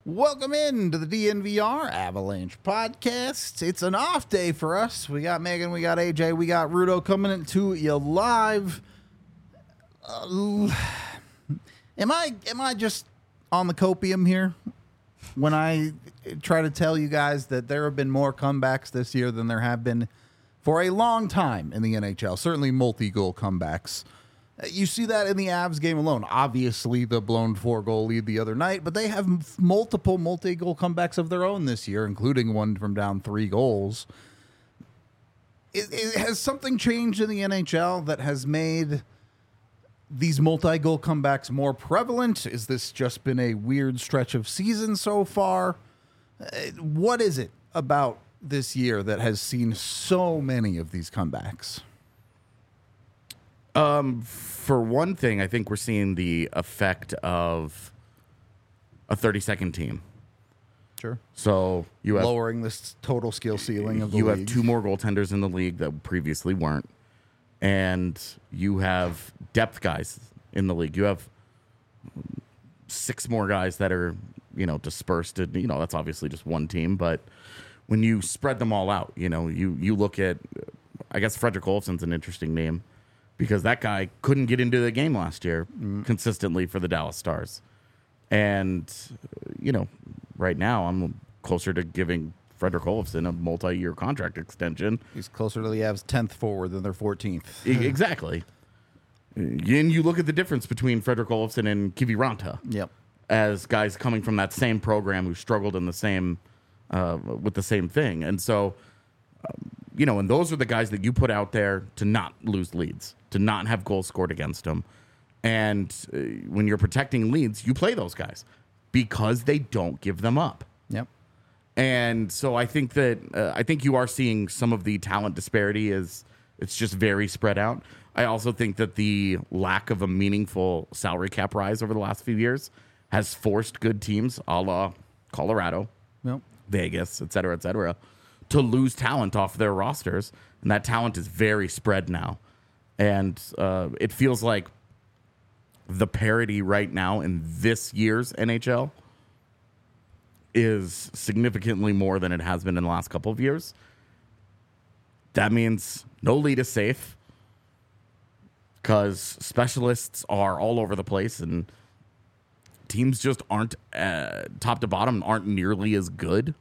Welcome in to the DNVR Avalanche podcast. It's an off day for us. We got Megan, we got AJ, we got Rudo coming into you live. Am I just on the copium here when I try to tell you guys that there have been more comebacks this year than there have been for a long time in the NHL? Certainly multi-goal comebacks. You see that in the Avs game alone. Obviously, the blown 4-goal lead the other night, but they have multiple multi-goal comebacks of their own this year, including one from down 3 goals. Has something changed in the NHL that has made these multi-goal comebacks more prevalent? Is this just been a weird stretch of season so far? What is it about this year that has seen so many of these comebacks? For one thing, I think we're seeing the effect of a 30-second team. Sure. So you have lowering this total skill ceiling of the league. league. Have 2 more goaltenders in the league that previously weren't, and you have depth guys in the league. You have 6 more guys that are dispersed. That's obviously just one team, but when you spread them all out, you look at, I guess Fredrik Olofsson's an interesting name, because that guy couldn't get into the game last year consistently for the Dallas Stars. And, right now I'm closer to giving Fredrik Olofsson a multi-year contract extension. He's closer to the Avs' 10th forward than their 14th. Exactly. And you look at the difference between Fredrik Olofsson and Kivi Ranta. Yep. As guys coming from that same program who struggled in the same with the same thing. And so, and those are the guys that you put out there to not lose leads, to not have goals scored against them. And when you're protecting leads, you play those guys because they don't give them up. Yep. And so I think that you are seeing some of the talent disparity is it's just very spread out. I also think that the lack of a meaningful salary cap rise over the last few years has forced good teams, a la Colorado, Yep. Vegas, et cetera, to lose talent off their rosters. And that talent is very spread now. And it feels like the parity right now in this year's NHL is significantly more than it has been in the last couple of years. That means no lead is safe because specialists are all over the place and teams just aren't, top to bottom, aren't nearly as good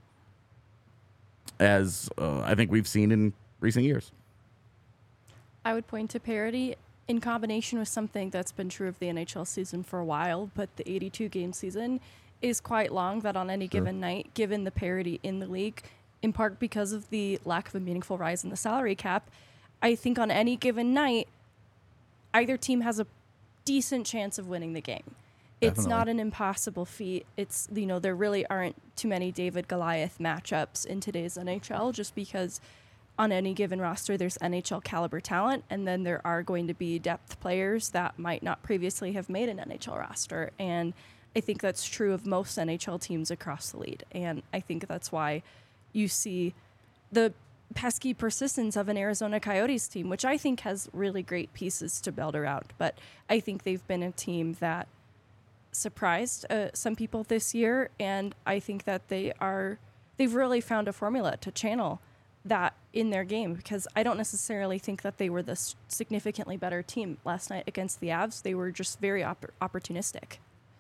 as I think we've seen in recent years. I would point to parity in combination with something that's been true of the NHL season for a while, but the 82-game season is quite long, that on any given night, given the parity in the league, in part because of the lack of a meaningful rise in the salary cap, I think on any given night, either team has a decent chance of winning the game. It's Definitely. not an impossible feat. It's, there really aren't too many David Goliath matchups in today's NHL, just because on any given roster, there's NHL caliber talent, and then there are going to be depth players that might not previously have made an NHL roster. And I think that's true of most NHL teams across the league. And I think that's why you see the pesky persistence of an Arizona Coyotes team, which I think has really great pieces to build around. But I think they've been a team that surprised some people this year, and I think that they've really found a formula to channel that in their game, because I don't necessarily think that they were the significantly better team last night against the Avs. They were just very opportunistic.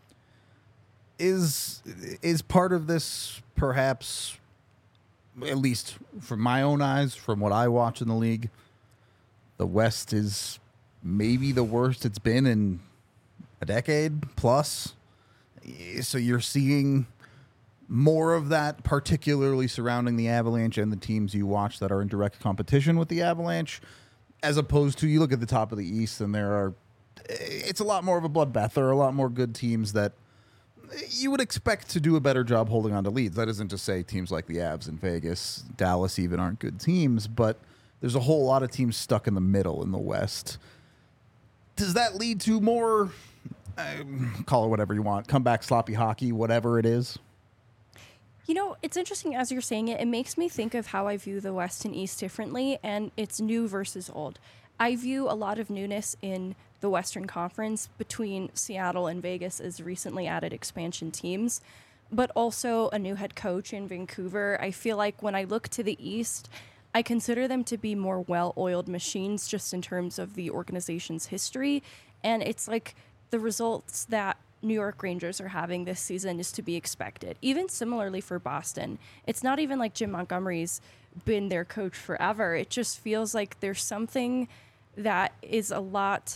Is part of this perhaps, at least from my own eyes, from what I watch in the league, the West is maybe the worst it's been in a decade plus? So you're seeing more of that, particularly surrounding the Avalanche and the teams you watch that are in direct competition with the Avalanche, as opposed to you look at the top of the East and it's a lot more of a bloodbath. There are a lot more good teams that you would expect to do a better job holding on to leads. That isn't to say teams like the Avs in Vegas, Dallas even aren't good teams, but there's a whole lot of teams stuck in the middle in the West. Does that lead to more, call it whatever you want, comeback sloppy hockey, whatever it is? It's interesting as you're saying it. It makes me think of how I view the West and East differently, and it's new versus old. I view a lot of newness in the Western Conference between Seattle and Vegas as recently added expansion teams. but also a new head coach in Vancouver. I feel like when I look to the East, I consider them to be more well-oiled machines just in terms of the organization's history. And it's like the results that New York Rangers are having this season is to be expected. Even similarly for Boston, it's not even like Jim Montgomery's been their coach forever. It just feels like there's something that is a lot...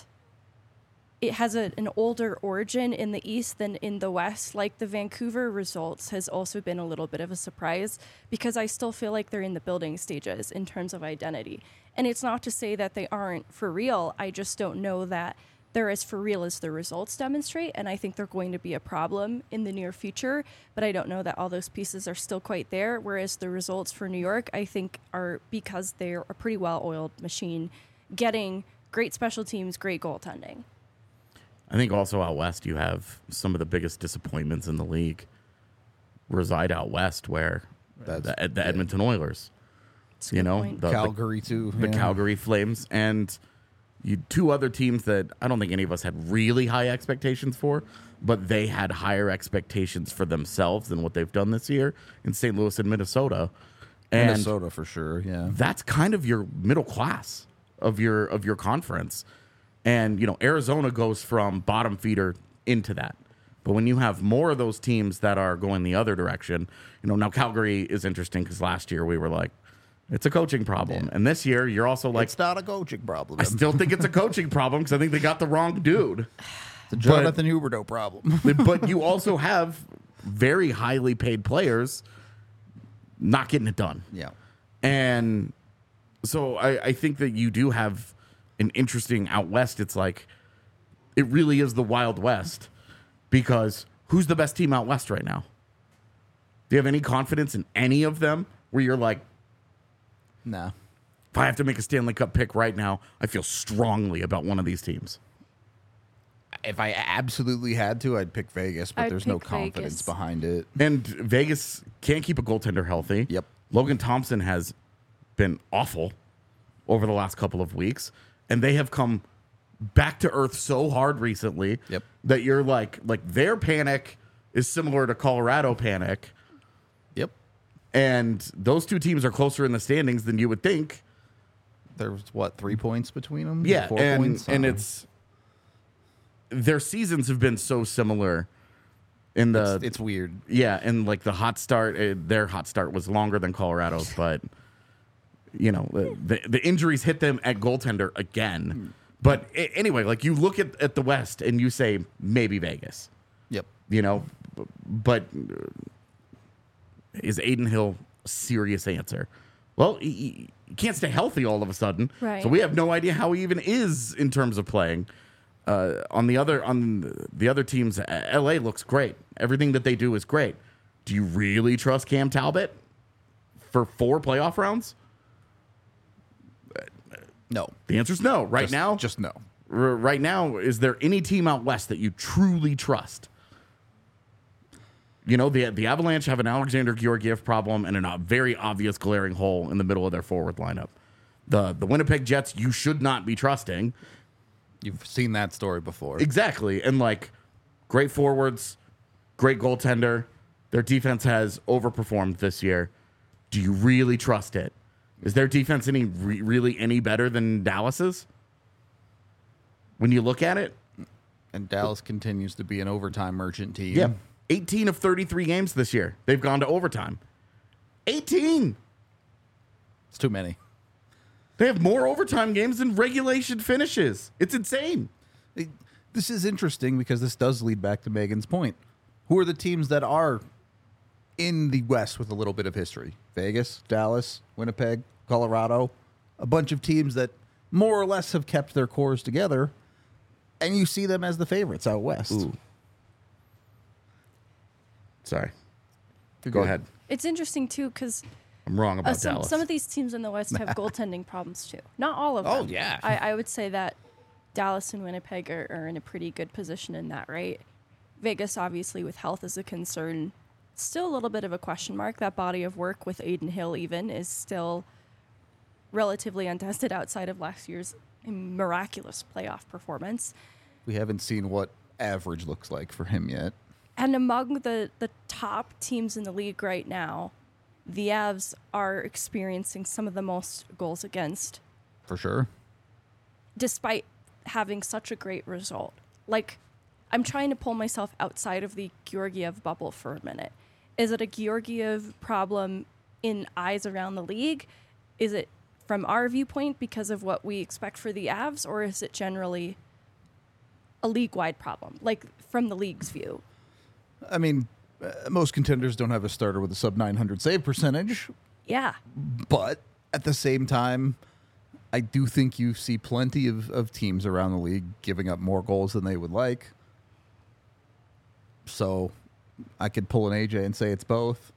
It has an older origin in the East than in the West. Like the Vancouver results has also been a little bit of a surprise because I still feel like they're in the building stages in terms of identity. And it's not to say that they aren't for real. I just don't know that they're as for real as the results demonstrate. And I think they're going to be a problem in the near future. But I don't know that all those pieces are still quite there. Whereas the results for New York, I think, are because they're a pretty well-oiled machine, getting great special teams, great goaltending. I think also out west, you have some of the biggest disappointments in the league reside out west, where the Edmonton Oilers, That's a good point. Calgary too. the Calgary Flames, and two other teams that I don't think any of us had really high expectations for, but they had higher expectations for themselves than what they've done this year in St. Louis and Minnesota. And Minnesota for sure. Yeah, that's kind of your middle class of your conference. And, Arizona goes from bottom feeder into that. But when you have more of those teams that are going the other direction, now Calgary is interesting because last year we were like, it's a coaching problem. Yeah. And this year you're also like, it's not a coaching problem. I still think it's a coaching problem because I think they got the wrong dude. It's a Jonathan Huberdeau problem. But you also have very highly paid players not getting it done. Yeah. And so I think that you do have an interesting out west. It's like it really is the Wild West because who's the best team out west right now? Do you have any confidence in any of them where you're like, nah, if I have to make a Stanley Cup pick right now, I feel strongly about one of these teams? If I absolutely had to, I'd pick Vegas, but there's no confidence behind it. And Vegas can't keep a goaltender healthy. Yep. Logan Thompson has been awful over the last couple of weeks. And they have come back to earth so hard recently that you're like their panic is similar to Colorado panic. Yep. And those two teams are closer in the standings than you would think. There's 3 points between them? Yeah, 4 and points? it's their seasons have been so similar. It's weird. Yeah, and like the hot start, their hot start was longer than Colorado's, but. The injuries hit them at goaltender again. But anyway, like you look at the West and you say maybe Vegas. Yep. But is Aiden Hill a serious answer? Well, he can't stay healthy all of a sudden. Right. So we have no idea how he even is in terms of playing. On the other teams, LA looks great. Everything that they do is great. Do you really trust Cam Talbot for 4 playoff rounds? No. The answer is no. Right now, just no. Right now, is there any team out west that you truly trust? The Avalanche have an Alexander Georgiev problem and a very obvious glaring hole in the middle of their forward lineup. The Winnipeg Jets, you should not be trusting. You've seen that story before. Exactly. And great forwards, great goaltender. Their defense has overperformed this year. Do you really trust it? Is their defense really any better than Dallas's? When you look at it? And Dallas continues to be an overtime merchant team. Yeah. 18 of 33 games this year. They've gone to overtime. 18! It's too many. They have more overtime games than regulation finishes. It's insane. This is interesting because this does lead back to Megan's point. Who are the teams that are in the West with a little bit of history? Vegas, Dallas, Winnipeg, Colorado, a bunch of teams that more or less have kept their cores together, and you see them as the favorites out West. Ooh. Sorry. Go ahead. It's interesting, too, because I'm wrong about Dallas. Some of these teams in the West have goaltending problems, too. Not all of them. Oh, yeah. I would say that Dallas and Winnipeg are in a pretty good position in that, right? Vegas, obviously, with health is a concern. Still a little bit of a question mark. That body of work with Aiden Hill even is still relatively untested outside of last year's miraculous playoff performance. We haven't seen what average looks like for him yet. And among the top teams in the league right now, the Avs are experiencing some of the most goals against, For sure. despite having such a great result. Like, I'm trying to pull myself outside of the Georgiev bubble for a minute. Is it a Georgiev problem in eyes around the league? Is it from our viewpoint because of what we expect for the Avs, or is it generally a league-wide problem, like from the league's view? I mean, most contenders don't have a starter with a sub 900 save percentage, Yeah. but at the same time, I do think you see plenty of teams around the league giving up more goals than they would like. So I could pull an AJ and say it's both.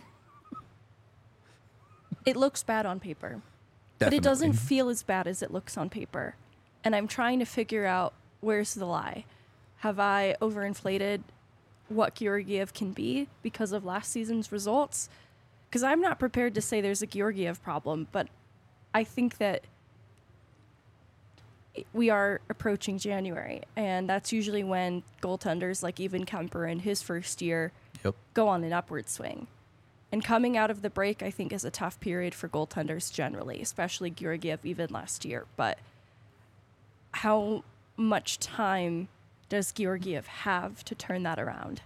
It looks bad on paper, but Definitely. it doesn't feel as bad as it looks on paper. And I'm trying to figure out where's the lie. Have I overinflated what Georgiev can be because of last season's results? Because I'm not prepared to say there's a Georgiev problem, but I think that we are approaching January, and that's usually when goaltenders like even Kemper in his first year Yep. go on an upward swing. And coming out of the break, I think, is a tough period for goaltenders generally, especially Georgiev even last year. But how much time does Georgiev have to turn that around?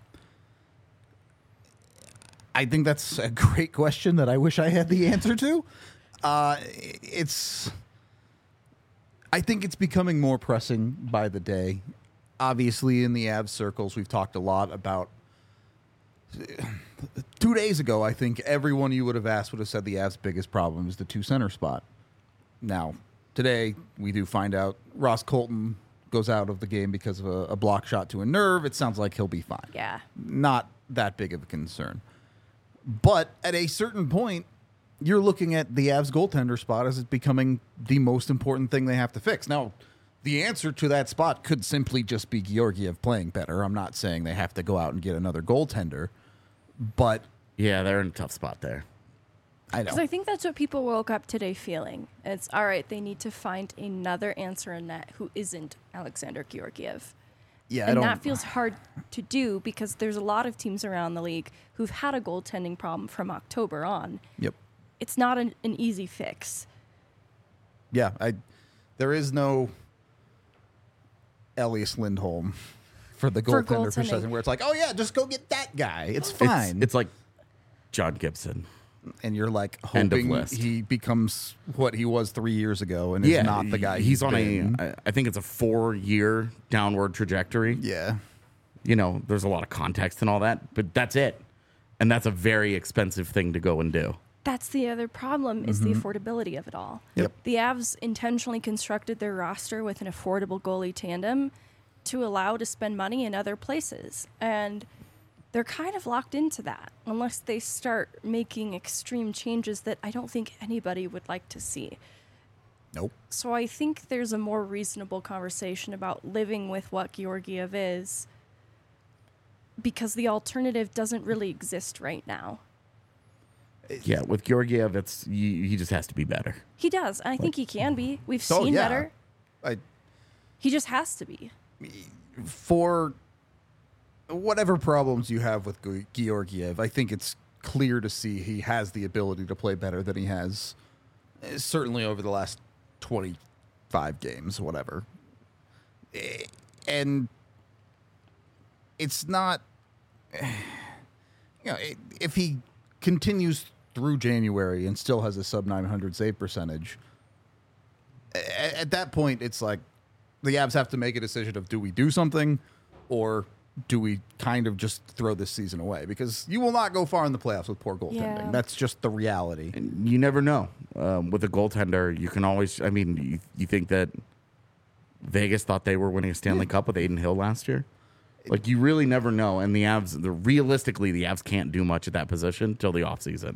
I think that's a great question that I wish I had the answer to. I think it's becoming more pressing by the day. Obviously, in the Avs circles, we've talked a lot about. 2 days ago, I think everyone you would have asked would have said the Avs' biggest problem is the 2 center spot. Now, today, we do find out Ross Colton goes out of the game because of a block shot to a nerve. It sounds like he'll be fine. Yeah. Not that big of a concern. But at a certain point, you're looking at the Avs goaltender spot as it becoming the most important thing they have to fix. Now, the answer to that spot could simply just be Georgiev playing better. I'm not saying they have to go out and get another goaltender, but Yeah, they're in a tough spot there. I know. Because I think that's what people woke up today feeling. It's, all right, they need to find another answer in net who isn't Alexander Georgiev. Yeah, I And don't. that feels hard to do because there's a lot of teams around the league who've had a goaltending problem from October on. Yep. It's not an easy fix. Yeah, there is no Elias Lindholm for the For goaltender goaltending. position where it's like, oh yeah, just go get that guy. It's fine. It's like John Gibson. And you're like End of hoping list. he becomes what he was 3 years ago and is not the guy he's on been. I think it's a 4-year downward trajectory. Yeah. You know, there's a lot of context and all that, but that's it. And that's a very expensive thing to go and do. That's the other problem is the affordability of it all. Yep. The Avs intentionally constructed their roster with an affordable goalie tandem to allow to spend money in other places. And they're kind of locked into that unless they start making extreme changes that I don't think anybody would like to see. Nope. So I think there's a more reasonable conversation about living with what Georgiev is because the alternative doesn't really exist right now. Yeah, with Georgiev, he just has to be better. He does. And I think he can be. We've Oh, seen yeah. better. He just has to be. For whatever problems you have with Georgiev, I think it's clear to see he has the ability to play better than he has, certainly over the last 25 games, whatever. And it's not, if he continues through January and still has a sub 900 save percentage, at that point, it's like the Avs have to make a decision of do we do something or do we kind of just throw this season away? Because you will not go far in the playoffs with poor goaltending. Yeah. That's just the reality. And you never know. With a goaltender, you can always, I mean, you think that Vegas thought they were winning a Stanley Cup with Aiden Hill last year? Like, you really never know. And the Avs, realistically, the Avs can't do much at that position till the offseason.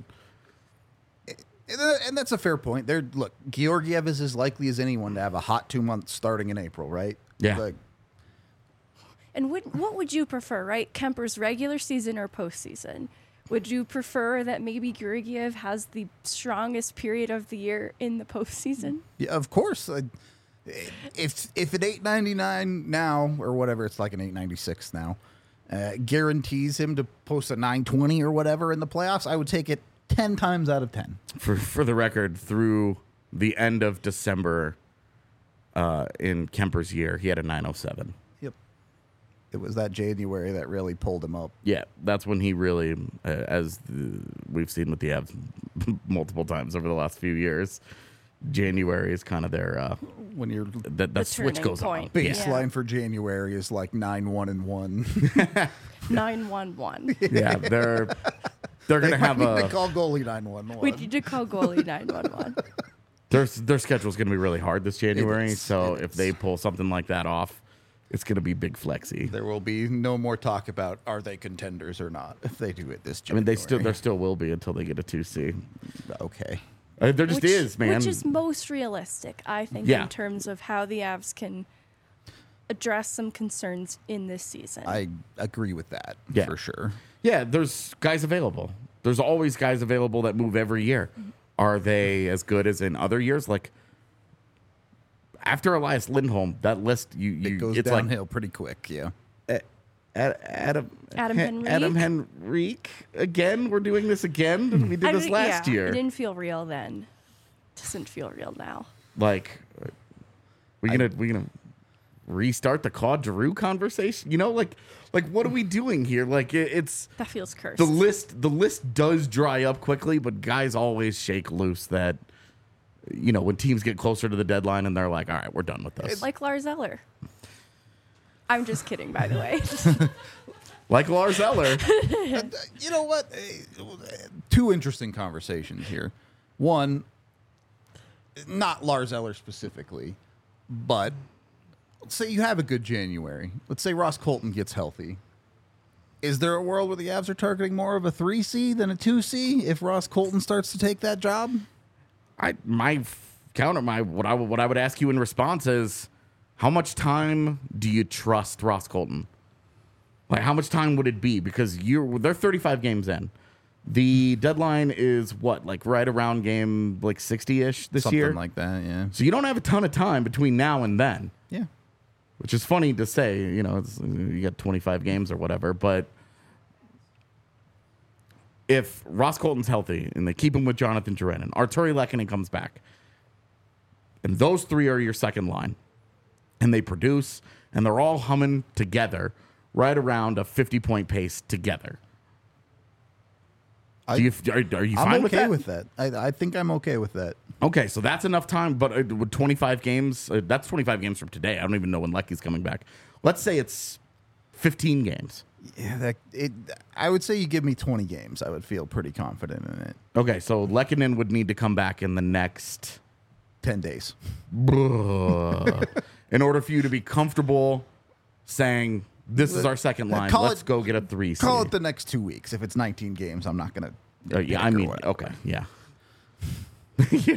And that's a fair point. Look, Georgiev is as likely as anyone to have a hot 2 months starting in April, right? Yeah. Like, And what would you prefer, right? Kemper's regular season or postseason? Would you prefer that maybe Georgiev has the strongest period of the year in the postseason? yeah, of course. If an 899 now or whatever, it's like an 896 now. guarantees him to post a 920 or whatever in the playoffs, I would take it 10 times out of 10. For the record, through the end of December in Kemper's year, he had a 907. Yep. It was that January that really pulled him up. Yeah, that's when he really, we've seen with the Avs multiple times over the last few years, January is kind of their When you're that switch turning goes point. on. baseline for January is like 9-1-1. 911. Yeah, they're gonna have They a call goalie 9-1-1. We need to call goalie 911. their schedule's gonna be really hard this January. is, So it if is. they pull something like that off, it's gonna be big flexy. There will be no more talk about are they contenders or not if they do it this I mean, January. there still will be until they get a 2C. Okay. There just is, man. Which is most realistic, I think, Yeah. in terms of how the Avs can address some concerns in this season. I agree with that Yeah. for sure. Yeah, there's guys available. There's always guys available that move every year. Are they as good as in other years? Like after Elias Lindholm, that list It goes it's downhill pretty quick, yeah. like Adam Henrique? Adam Henrique again. We're doing this again. We did this last year. It didn't feel real then. Doesn't feel real now. Like we gonna restart the Claude Giroux conversation? You know, like what are we doing here? Like it's That feels cursed. the list does dry up quickly, but guys always shake loose that, you know, when teams get closer to the deadline and they're like, all right, we're done with this. Like Lars Eller. I'm just kidding, by the way. Like Lars Eller. You know what? Two interesting conversations here. One, not Lars Eller specifically, but let's say you have a good January. Let's say Ross Colton gets healthy. Is there a world where the Avs are targeting more of a 3C than a 2C if Ross Colton starts to take that job? What I would ask you in response is, how much time do you trust Ross Colton? Like, how much time would it be? Because they're 35 games in. The deadline is what, like right around game like 60-ish this Something year? like that, yeah. So you don't have a ton of time between now and then, Yeah. which is funny to say. You know, you got 25 games or whatever. But if Ross Colton's healthy and they keep him with Jonathan Drouin, Arturi Lehkonen comes back, and those three are your second line, and they produce, and they're all humming together right around a 50-point pace together. Are you fine I'm with okay that? with that. I think I'm okay with that. Okay, so that's enough time, but with 25 games, that's 25 games from today. I don't even know when Lecky's coming back. Let's say it's 15 games. Yeah, I would say you give me 20 games. I would feel pretty confident in it. Okay, so Lehkonen would need to come back in the next 10 days. in order for you to be comfortable saying this is our second line. Let's go get a 3C. Call it the next 2 weeks. If it's 19 games, I'm not going to. Yeah, I mean, okay, yeah. yeah.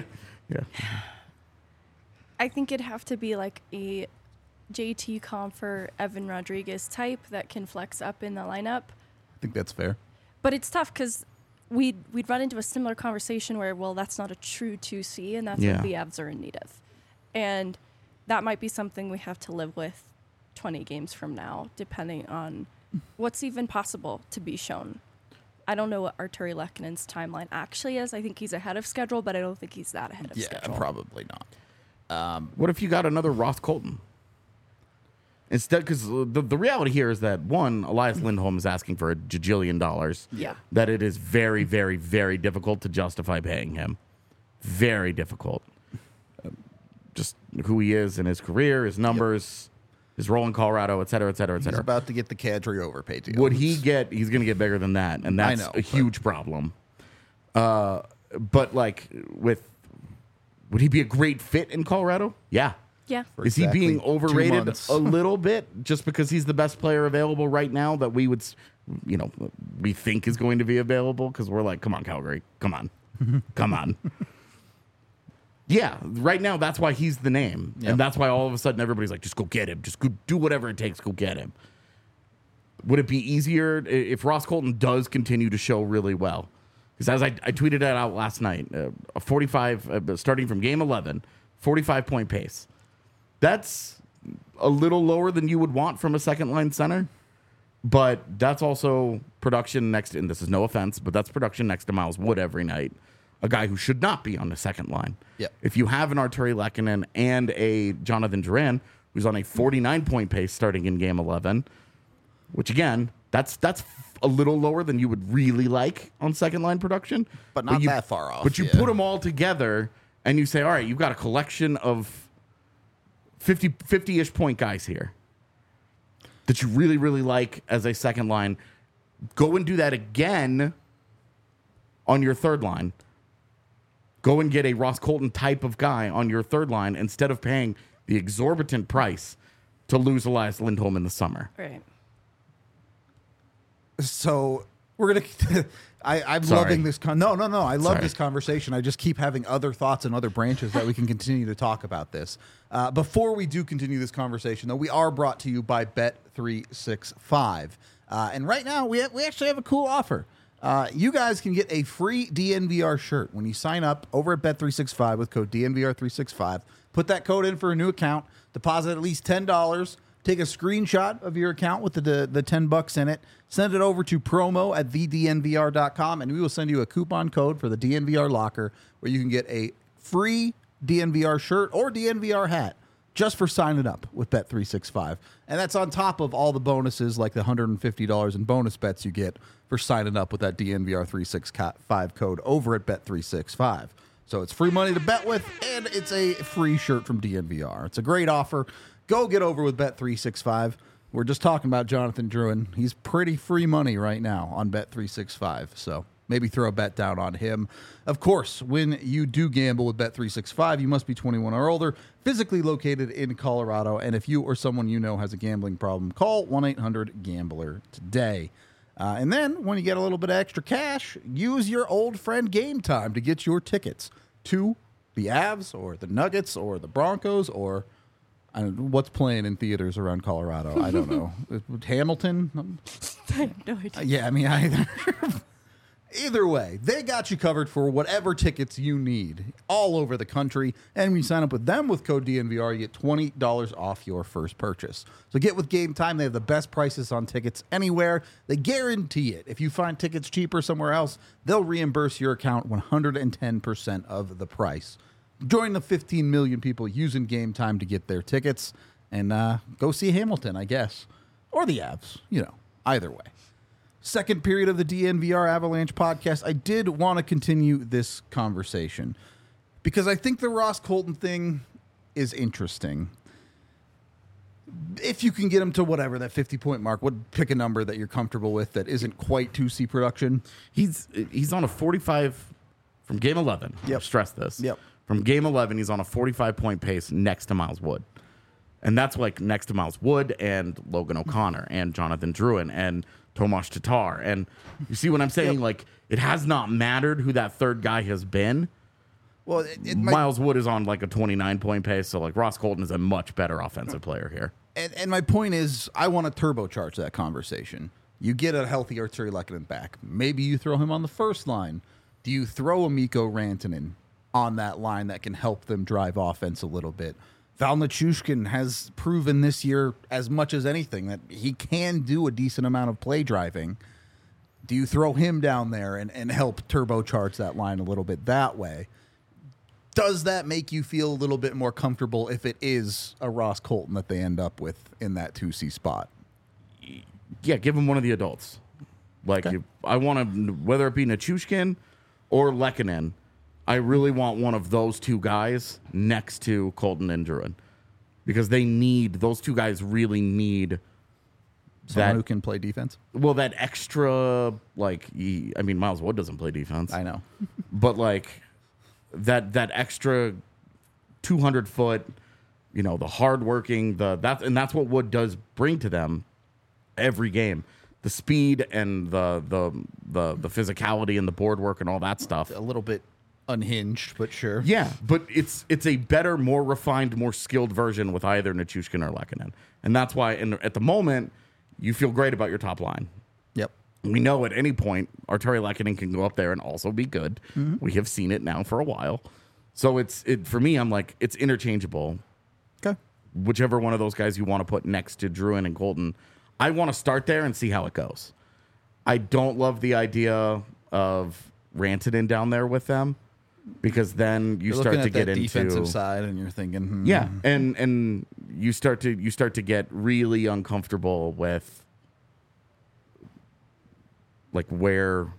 I think it'd have to be like a JT Compher, Evan Rodriguez type that can flex up in the lineup. I think that's fair. But it's tough because we'd run into a similar conversation where, well, that's not a true 2C, and that's Yeah. what the Avs are in need of. And that might be something we have to live with 20 games from now, depending on what's even possible to be shown. I don't know what Arturi Lehkonen's timeline actually is. I think he's ahead of schedule, but I don't think he's that ahead of schedule. probably not. What if you got another Ross Colton? Instead, because the reality here is that, one, Elias Lindholm is asking for $1 gajillion. Yeah. That it is very, very, very difficult to justify paying him. Very difficult. Just who he is in his career, his numbers, his role in Colorado, et cetera, et cetera, et He's cetara. about to get the Kadri overpay deal. Would he get? He's going to get bigger than that, and that's know, a huge problem. But like, would he be a great fit in Colorado? Yeah. Yeah. For Is he exactly being 2 overrated months. a little bit just because he's the best player available right now that we would, we think is going to be available? Because we're like, come on, Calgary, come on, come on. Yeah, right now that's why he's the name, Yep. and that's why all of a sudden everybody's like, just go get him, just go do whatever it takes, go get him. Would it be easier if Ross Colton does continue to show really well? Because as I tweeted it out last night, a 45 starting from game 11, 45-point pace. That's a little lower than you would want from a second line center, But that's also production next, and this is no offense, but that's production next to Miles Wood every night, a guy who should not be on the second line. Yep. If you have an Arturi Lehkonen and a Jonathan Duran, who's on a 49-point pace starting in Game 11, which again, that's a little lower than you would really like on second line production. But not that far off. But you put them all together and you say, all right, you've got a collection of 50-ish point guys here that you really, really like as a second line. Go and do that again on your third line. Go and get a Ross Colton type of guy on your third line instead of paying the exorbitant price to lose Elias Lindholm in the summer. Right. So we're gonna. I'm Sorry. loving this. No. I love Sorry. this conversation. I just keep having other thoughts and other branches that we can continue to talk about this. Before we do continue this conversation, though, we are brought to you by Bet365, and right now we actually have a cool offer. You guys can get a free DNVR shirt when you sign up over at Bet365 with code DNVR365. Put that code in for a new account. Deposit at least $10. Take a screenshot of your account with the $10 in it. Send it over to promo@thednvr.com, and we will send you a coupon code for the DNVR locker where you can get a free DNVR shirt or DNVR hat just for signing up with Bet365. And that's on top of all the bonuses like the $150 in bonus bets you get for signing up with that DNVR365 code over at Bet365. So it's free money to bet with, and it's a free shirt from DNVR. It's a great offer. Go get over with Bet365. We're just talking about Jonathan Drouin. He's pretty free money right now on Bet365. So maybe throw a bet down on him. Of course, when you do gamble with Bet365, you must be 21 or older, physically located in Colorado. And if you or someone you know has a gambling problem, call 1-800-GAMBLER today. And then when you get a little bit of extra cash, use your old friend Game Time to get your tickets to the Avs or the Nuggets or the Broncos or I don't know, what's playing in theaters around Colorado. I don't know. Hamilton? I have no idea. Yeah, I mean, either way, they got you covered for whatever tickets you need all over the country. And when you sign up with them with code DNVR, you get $20 off your first purchase. So get with Game Time. They have the best prices on tickets anywhere. They guarantee it. If you find tickets cheaper somewhere else, they'll reimburse your account 110% of the price. Join the 15 million people using Game Time to get their tickets and go see Hamilton, I guess. Or the Avs, either way. Second period of the DNVR Avalanche podcast, I did want to continue this conversation because I think the Ross Colton thing is interesting. If you can get him to whatever, that 50-point mark, pick a number that you're comfortable with that isn't quite 2C production. He's on a 45 from Game 11. Yep. Stress this. Yep. From Game 11, he's on a 45-point pace next to Miles Wood. And that's like next to Miles Wood and Logan O'Connor and Jonathan Drouin and Tomas Tatar. And you see what I'm saying? Yep. Like, it has not mattered who that third guy has been. Well, Miles Wood is on like a 29-point pace, so like Ross Colton is a much better offensive player here. And my point is, I want to turbocharge that conversation. You get a healthy Arturi Lehkonen back. Maybe you throw him on the first line. Do you throw a Mikko Rantanen on that line that can help them drive offense a little bit? Val Nichushkin has proven this year as much as anything that he can do a decent amount of play driving. Do you throw him down there and help turbocharge that line a little bit that way? Does that make you feel a little bit more comfortable if it is a Ross Colton that they end up with in that 2C spot? Yeah, give him one of the adults. Like, Okay. I want to, whether it be Nichushkin or Lehkonen, I really want one of those two guys next to Colton and Drouin because those two guys really need Someone that who can play defense? Well, that extra, Miles Wood doesn't play defense. I know. But, like, that extra 200-foot, the hardworking, and that's what Wood does bring to them every game. The speed and the physicality and the board work and all that stuff. A little bit unhinged, but sure. Yeah, but it's a better, more refined, more skilled version with either Nichushkin or Lehkonen. And that's why at the moment, you feel great about your top line. Yep. We know at any point Arturi Lehkonen can go up there and also be good. Mm-hmm. We have seen it now for a while. So for me, I'm like, it's interchangeable. Okay. Whichever one of those guys you want to put next to Drouin and Colton, I want to start there and see how it goes. I don't love the idea of Rantanen down there with them, because then you You're start looking to at get that into defensive side, and you're thinking, yeah, and you start to get really uncomfortable with like where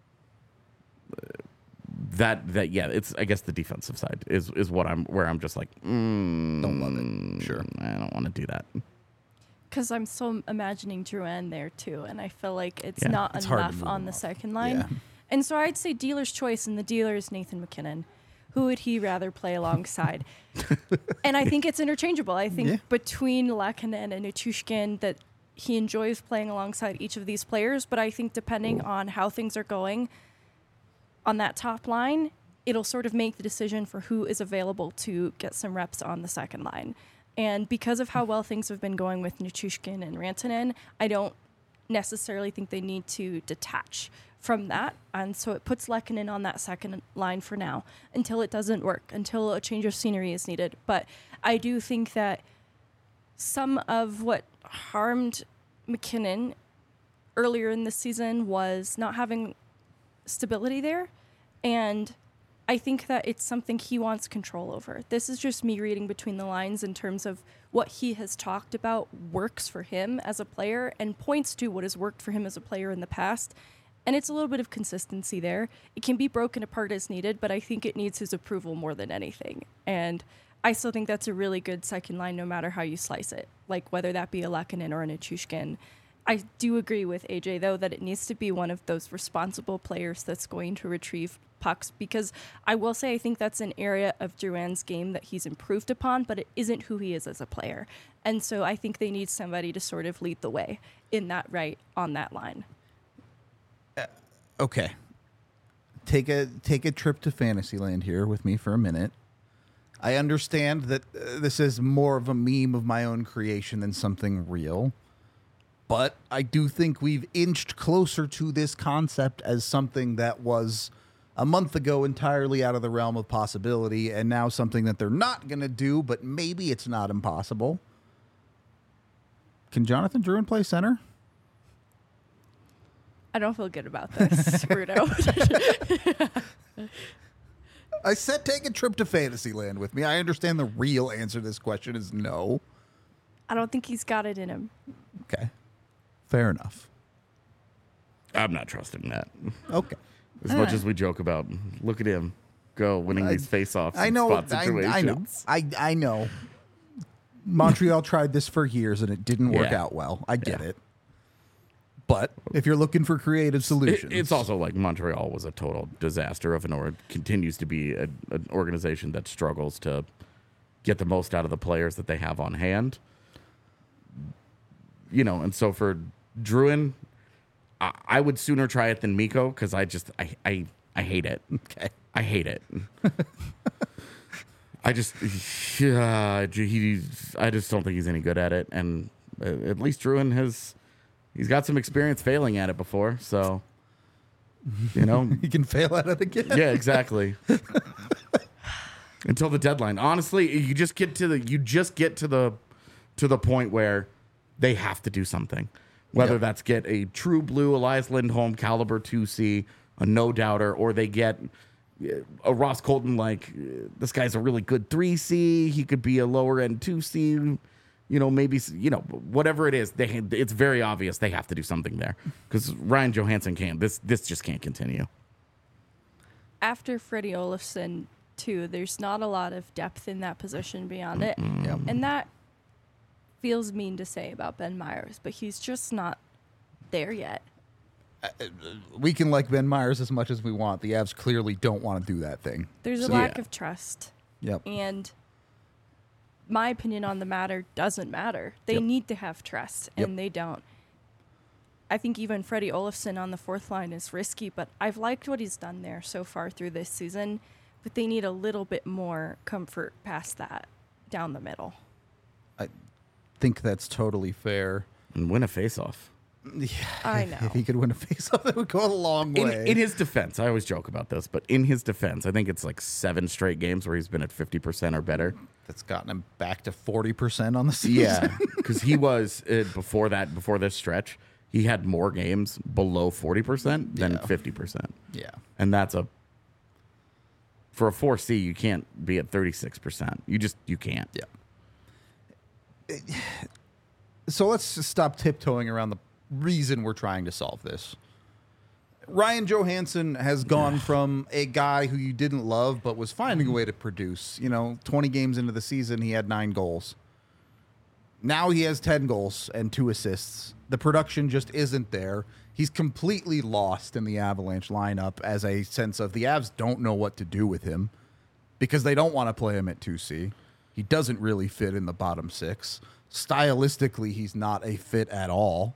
that yeah, it's, I guess the defensive side is where I'm just like, don't love it. Sure. I don't want to do that. Because I'm so imagining Drouin there too, and I feel like it's Yeah, not it's hard to enough move on him the off. second line. Yeah. And so I'd say dealer's choice, and the dealer is Nathan McKinnon. Who would he rather play alongside? And I think it's interchangeable. I think between Lehkonen and Nichushkin that he enjoys playing alongside each of these players, but I think depending on how things are going on that top line, it'll sort of make the decision for who is available to get some reps on the second line. And because of how well things have been going with Nichushkin and Rantanen, I don't necessarily think they need to detach from that. And so it puts Lehkonen on that second line for now until it doesn't work, until a change of scenery is needed. But I do think that some of what harmed McKinnon earlier in the season was not having stability there. And I think that it's something he wants control over. This is just me reading between the lines in terms of what he has talked about works for him as a player and points to what has worked for him as a player in the past. And it's a little bit of consistency there. It can be broken apart as needed, but I think it needs his approval more than anything. And I still think that's a really good second line no matter how you slice it, like whether that be a Lehkonen or a Nichushkin. I do agree with AJ, though, that it needs to be one of those responsible players that's going to retrieve pucks, because I will say I think that's an area of Drouin's game that he's improved upon, but it isn't who he is as a player. And so I think they need somebody to sort of lead the way in that right on that line. Okay. Take a trip to Fantasyland here with me for a minute. I understand that this is more of a meme of my own creation than something real, but I do think we've inched closer to this concept as something that was a month ago entirely out of the realm of possibility, and now something that they're not going to do, but maybe it's not impossible. Can Jonathan Drouin play center? I don't feel good about this, Bruno. I said take a trip to Fantasyland with me. I understand the real answer to this question is no. I don't think he's got it in him. Okay. Fair enough. I'm not trusting that. Okay. As much as we joke about, look at him go winning these face-offs. I know. Spot situations. I know. Montreal tried this for years and it didn't work Yeah. out well. I get it. But if you're looking for creative solutions, It's also like Montreal was a total disaster of continues to be an organization that struggles to get the most out of the players that they have on hand. You know, and so for Drouin, I would sooner try it than Mikko, because I hate it. Okay. I hate it. I just don't think he's any good at it, and at least Drouin he's got some experience failing at it before, so you know you can fail at it again. yeah, exactly. Until the deadline. Honestly, you just get to the point where they have to do something. Whether Yep. that's get a true blue Elias Lindholm caliber 2C, a no doubter, or they get a Ross Colton, like this guy's a really good 3C. He could be a lower end 2C. You know, maybe, whatever it is, it's very obvious they have to do something there, because Ryan Johansson can't. This just can't continue. After Freddie Olofsson, too, there's not a lot of depth in that position beyond it. Yep. And that feels mean to say about Ben Myers, but he's just not there yet. We can like Ben Myers as much as we want. The Avs clearly don't want to do that thing. There's a So- lack Yeah. of trust. Yep. And my opinion on the matter doesn't matter. They Yep. need to have trust, and they don't. I think even Freddie Olofsson on the fourth line is risky, but I've liked what he's done there so far through this season. But they need a little bit more comfort past that down the middle. I think that's totally fair. And win a faceoff. I know. If he could win a face-off, it would go a long way. In his defense, I always joke about this, but in his defense, I think it's like 7 straight games where he's been at 50% or better. That's gotten him back to 40% on the season. Yeah, because he was before this stretch, he had more games below 40% than 50%. Yeah. And that's for a 4C, you can't be at 36%. You can't. Yeah. So let's just stop tiptoeing around the reason we're trying to solve this. Ryan Johansson has gone from a guy who you didn't love but was finding a way to produce. 20 games into the season, he had 9 goals. Now he has 10 goals and 2 assists. The production just isn't there. He's completely lost in the Avalanche lineup as a sense of the Avs don't know what to do with him because they don't want to play him at 2C. He doesn't really fit in the bottom 6. Stylistically, he's not a fit at all.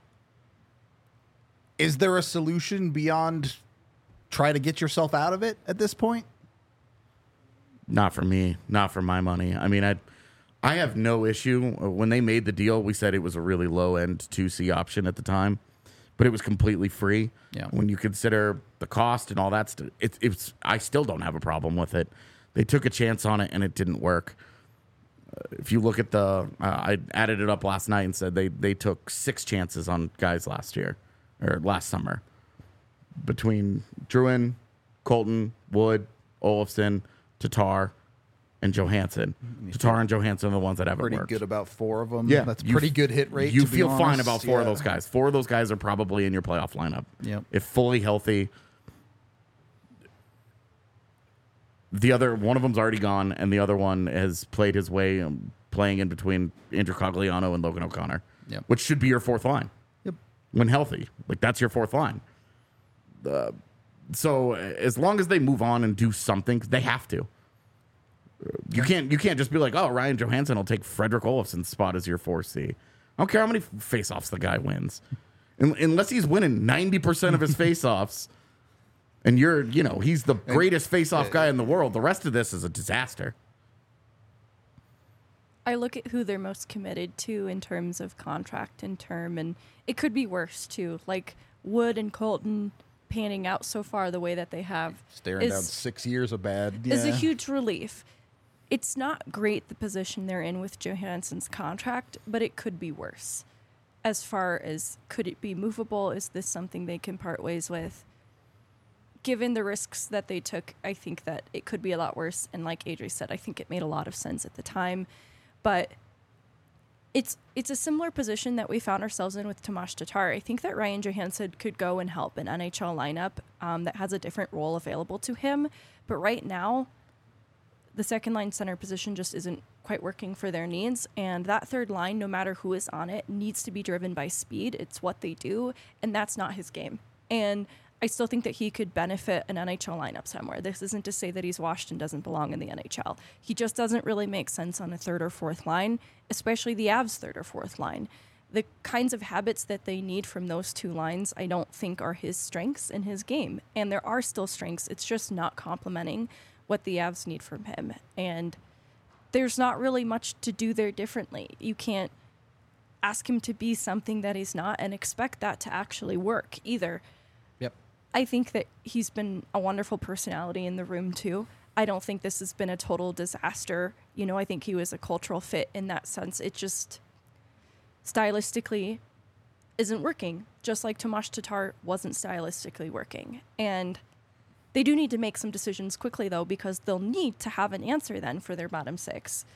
Is there a solution beyond try to get yourself out of it at this point? Not for me. Not for my money. I mean, I have no issue. When they made the deal, we said it was a really low-end 2C option at the time, but it was completely free. Yeah. When you consider the cost and all that stuff, I still don't have a problem with it. They took a chance on it, and it didn't work. If you look at I added it up last night and said they took 6 chances on guys last summer, between Drouin, Colton, Wood, Olofsson, Tatar, and Johansson. Tatar and Johansson are the ones that haven't Pretty worked. good about 4 of them. Yeah, That's pretty good hit rate. You to be feel fine honest. about 4 of those guys. 4 of those guys are probably in your playoff lineup. Yep. If fully healthy. The other one of them's already gone, and the other one has played his way, playing in between Andrew Cogliano and Logan O'Connor, Yep. which should be your 4th line. Yep. When healthy, like that's your 4th line. So as long as they move on and do something, they have to. You can't just be like, oh, Ryan Johansson will take Frederick Olofsson's spot as your 4C. I don't care how many faceoffs the guy wins, unless he's winning 90% of his faceoffs. And he's the greatest face-off guy in the world. The rest of this is a disaster. I look at who they're most committed to in terms of contract and term, and it could be worse too. Like Wood and Colton panning out so far the way that they have Staring down 6 years of bad. Yeah. is a huge relief. It's not great the position they're in with Johansson's contract, but it could be worse. As far as could it be movable? Is this something they can part ways with? Given the risks that they took, I think that it could be a lot worse. And like Adri said, I think it made a lot of sense at the time. But it's a similar position that we found ourselves in with Tomas Tatar. I think that Ryan Johansson could go and help an NHL lineup that has a different role available to him. But right now, the second line center position just isn't quite working for their needs. And that third line, no matter who is on it, needs to be driven by speed. It's what they do. And that's not his game. And I still think that he could benefit an NHL lineup somewhere. This isn't to say that he's washed and doesn't belong in the NHL. He just doesn't really make sense on a 3rd or 4th line, especially the Avs' 3rd or 4th line. The kinds of habits that they need from those 2 lines, I don't think are his strengths in his game. And there are still strengths. It's just not complementing what the Avs need from him. And there's not really much to do there differently. You can't ask him to be something that he's not and expect that to actually work either. Yep. I think that he's been a wonderful personality in the room too. I don't think this has been a total disaster. I think he was a cultural fit in that sense. It just stylistically isn't working, just like Tomas Tatar wasn't stylistically working. And they do need to make some decisions quickly, though, because they'll need to have an answer then for their bottom 6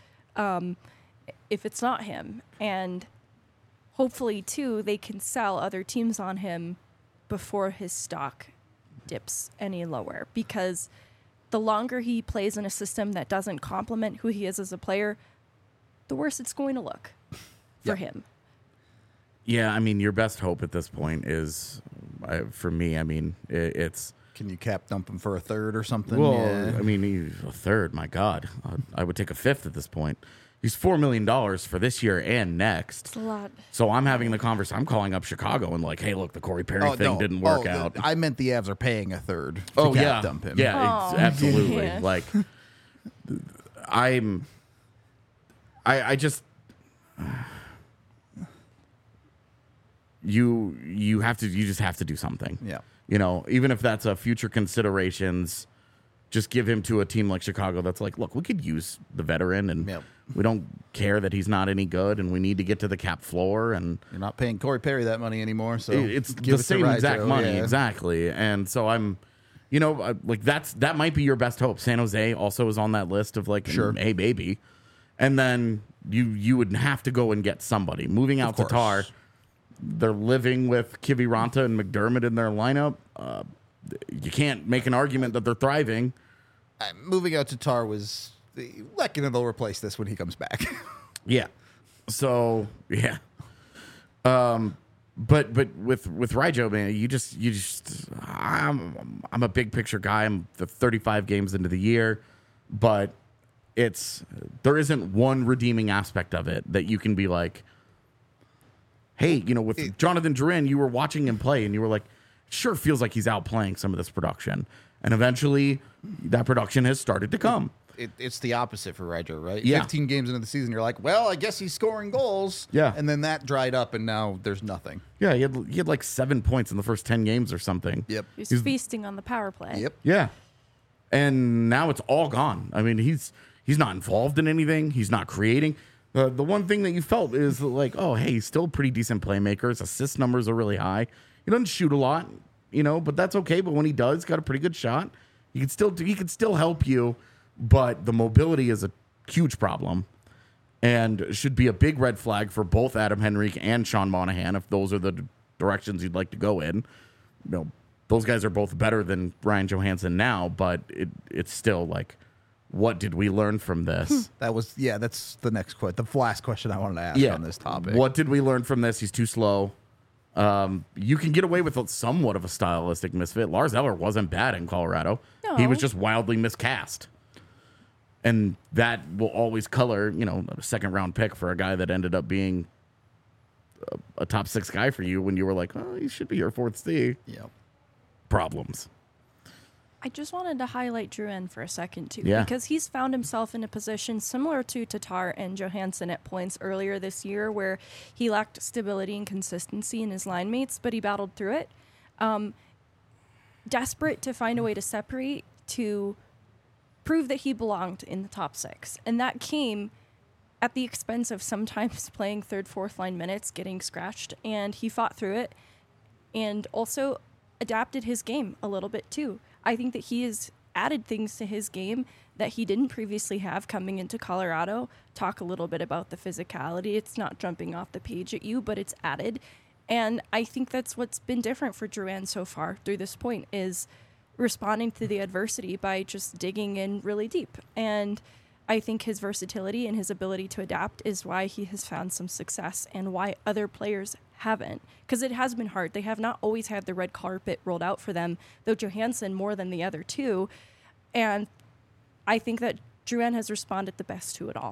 if it's not him. And hopefully, too, they can sell other teams on him before his stock dips any lower, because the longer he plays in a system that doesn't complement who he is as a player, the worse it's going to look for him. Yeah, I mean, your best hope at this point is, for me, I mean, it's... Can you cap dump him for a 3rd or something? Well, Yeah. I mean, a 3rd, my God. I would take a 5th at this point. He's $4 million for this year and next. It's a lot. So I'm having the conversation. I'm calling up Chicago and like, hey, look, the Corey Perry thing didn't work out. I meant the Avs are paying a 3rd to cap dump him. Yeah, Oh, absolutely. yeah. Like, I just... you just have to do something. Yeah. Even if that's a future considerations, just give him to a team like Chicago that's like, look, we could use the veteran, and Yep. we don't care that he's not any good, and we need to get to the cap floor, and You're not paying Corey Perry that money anymore, so it's give the it to same exact Rijo, money, yeah. exactly. And so I'm, like that might be your best hope. San Jose also is on that list of like, Sure. hey baby, and then you would have to go and get somebody. Moving out Of course. Tatar, they're living with Kiviranta and McDermott in their lineup. You can't make an argument that they're thriving. Moving out to Tar was Lehkonen will replace this when he comes back. Yeah. So yeah. But with Rijo, man, you just I'm a big picture guy. I'm the 35 games into the year, but there isn't one redeeming aspect of it that you can be like, hey, with Jonathan Drouin, you were watching him play and you were like, sure feels like he's outplaying some of this production. And eventually that production has started to come. It's the opposite for Rijo, right? Yeah. 15 games into the season, you're like, well, I guess he's scoring goals. Yeah. And then that dried up, and now there's nothing. Yeah, he had like 7 points in the first 10 games or something. Yep. He's feasting on the power play. Yep. Yeah. And now it's all gone. I mean, he's not involved in anything. He's not creating. The one thing that you felt is like, oh, hey, he's still a pretty decent playmaker. His assist numbers are really high. He doesn't shoot a lot, but that's okay. But when he does, got a pretty good shot. He could still help you, but the mobility is a huge problem and should be a big red flag for both Adam Henrique and Sean Monahan if those are the directions you'd like to go in. Those guys are both better than Ryan Johansson now, but it's still like, what did we learn from this? That's the next question. The last question I wanted to ask on this topic. What did we learn from this? He's too slow. You can get away with somewhat of a stylistic misfit. Lars Eller wasn't bad in Colorado. No. He was just wildly miscast. And that will always color, a second round pick for a guy that ended up being a top 6 guy for you when you were like, oh, he should be your 4th C. Yep. Problems. I just wanted to highlight Drouin for a second, too, Yeah. because he's found himself in a position similar to Tatar and Johansson at points earlier this year where he lacked stability and consistency in his line mates, but he battled through it. Desperate to find a way to separate, to prove that he belonged in the top 6. And that came at the expense of sometimes playing 3rd, 4th line minutes, getting scratched, and he fought through it and also adapted his game a little bit, too. I think that he has added things to his game that he didn't previously have coming into Colorado. Talk a little bit about the physicality. It's not jumping off the page at you, but it's added. And I think that's what's been different for Drouin so far through this point is responding to the adversity by just digging in really deep. And I think his versatility and his ability to adapt is why he has found some success and why other players haven't. Because it has been hard. They have not always had the red carpet rolled out for them, though Johansson more than the other two. And I think that Drouin has responded the best to it all.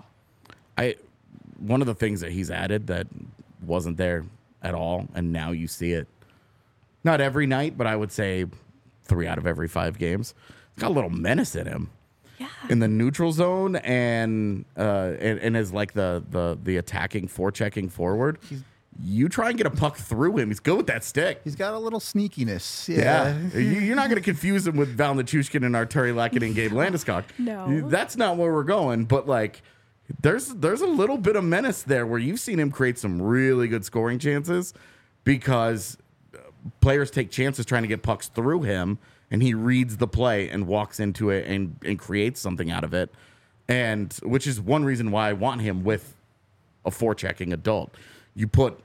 One of the things that he's added that wasn't there at all, and now you see it, not every night, but I would say 3 out of every 5 games, he's got a little menace in him. Yeah. In the neutral zone and as like the attacking forechecking forward. You try and get a puck through him. He's good with that stick. He's got a little sneakiness. Yeah. You're not going to confuse him with Val Nichushkin and Arturi Lehkonen and Gabe Landeskog. No. That's not where we're going. But, like, there's a little bit of menace there where you've seen him create some really good scoring chances because players take chances trying to get pucks through him, and he reads the play and walks into it and creates something out of it. And which is one reason why I want him with a forechecking adult. You put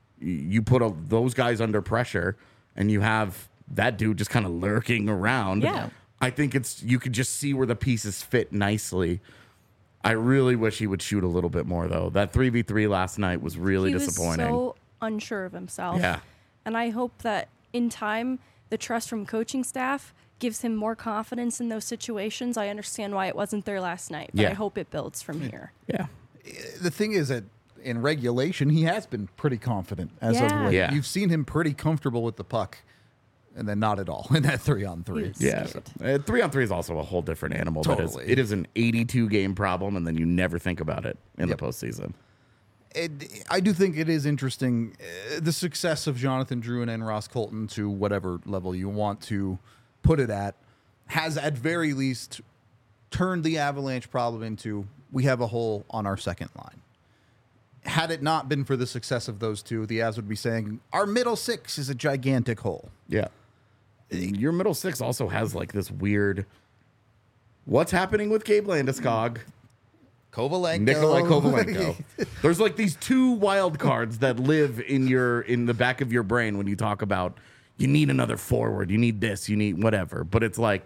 those guys under pressure, and you have that dude just kind of lurking around. Yeah. I think you could just see where the pieces fit nicely. I really wish he would shoot a little bit more, though. That 3v3 last night was really disappointing. He was so unsure of himself. Yeah. And I hope that in time, the trust from coaching staff gives him more confidence in those situations. I understand why it wasn't there last night, but Yeah. I hope it builds from here. Yeah. The thing is that in regulation, he has been pretty confident as of Yeah. late. Yeah. You've seen him pretty comfortable with the puck, and then not at all in that 3-on-3. He's Yeah. scared. 3-on-3 is also a whole different animal. Totally. It is an 82 game problem, and then you never think about it in Yep. the postseason. I do think it is interesting the success of Jonathan Drouin and Ross Colton, to whatever level you want to put it at, has at very least turned the Avalanche problem into we have a hole on our second line. Had it not been for the success of those two, the Avs would be saying our middle six is a gigantic hole. Yeah. Your middle six also has like this weird. What's happening with Gabe Landeskog? Kovalenko. Nikolai Kovalenko. There's like these two wild cards that live in the back of your brain when you talk about you need another forward, you need this, you need whatever. But it's like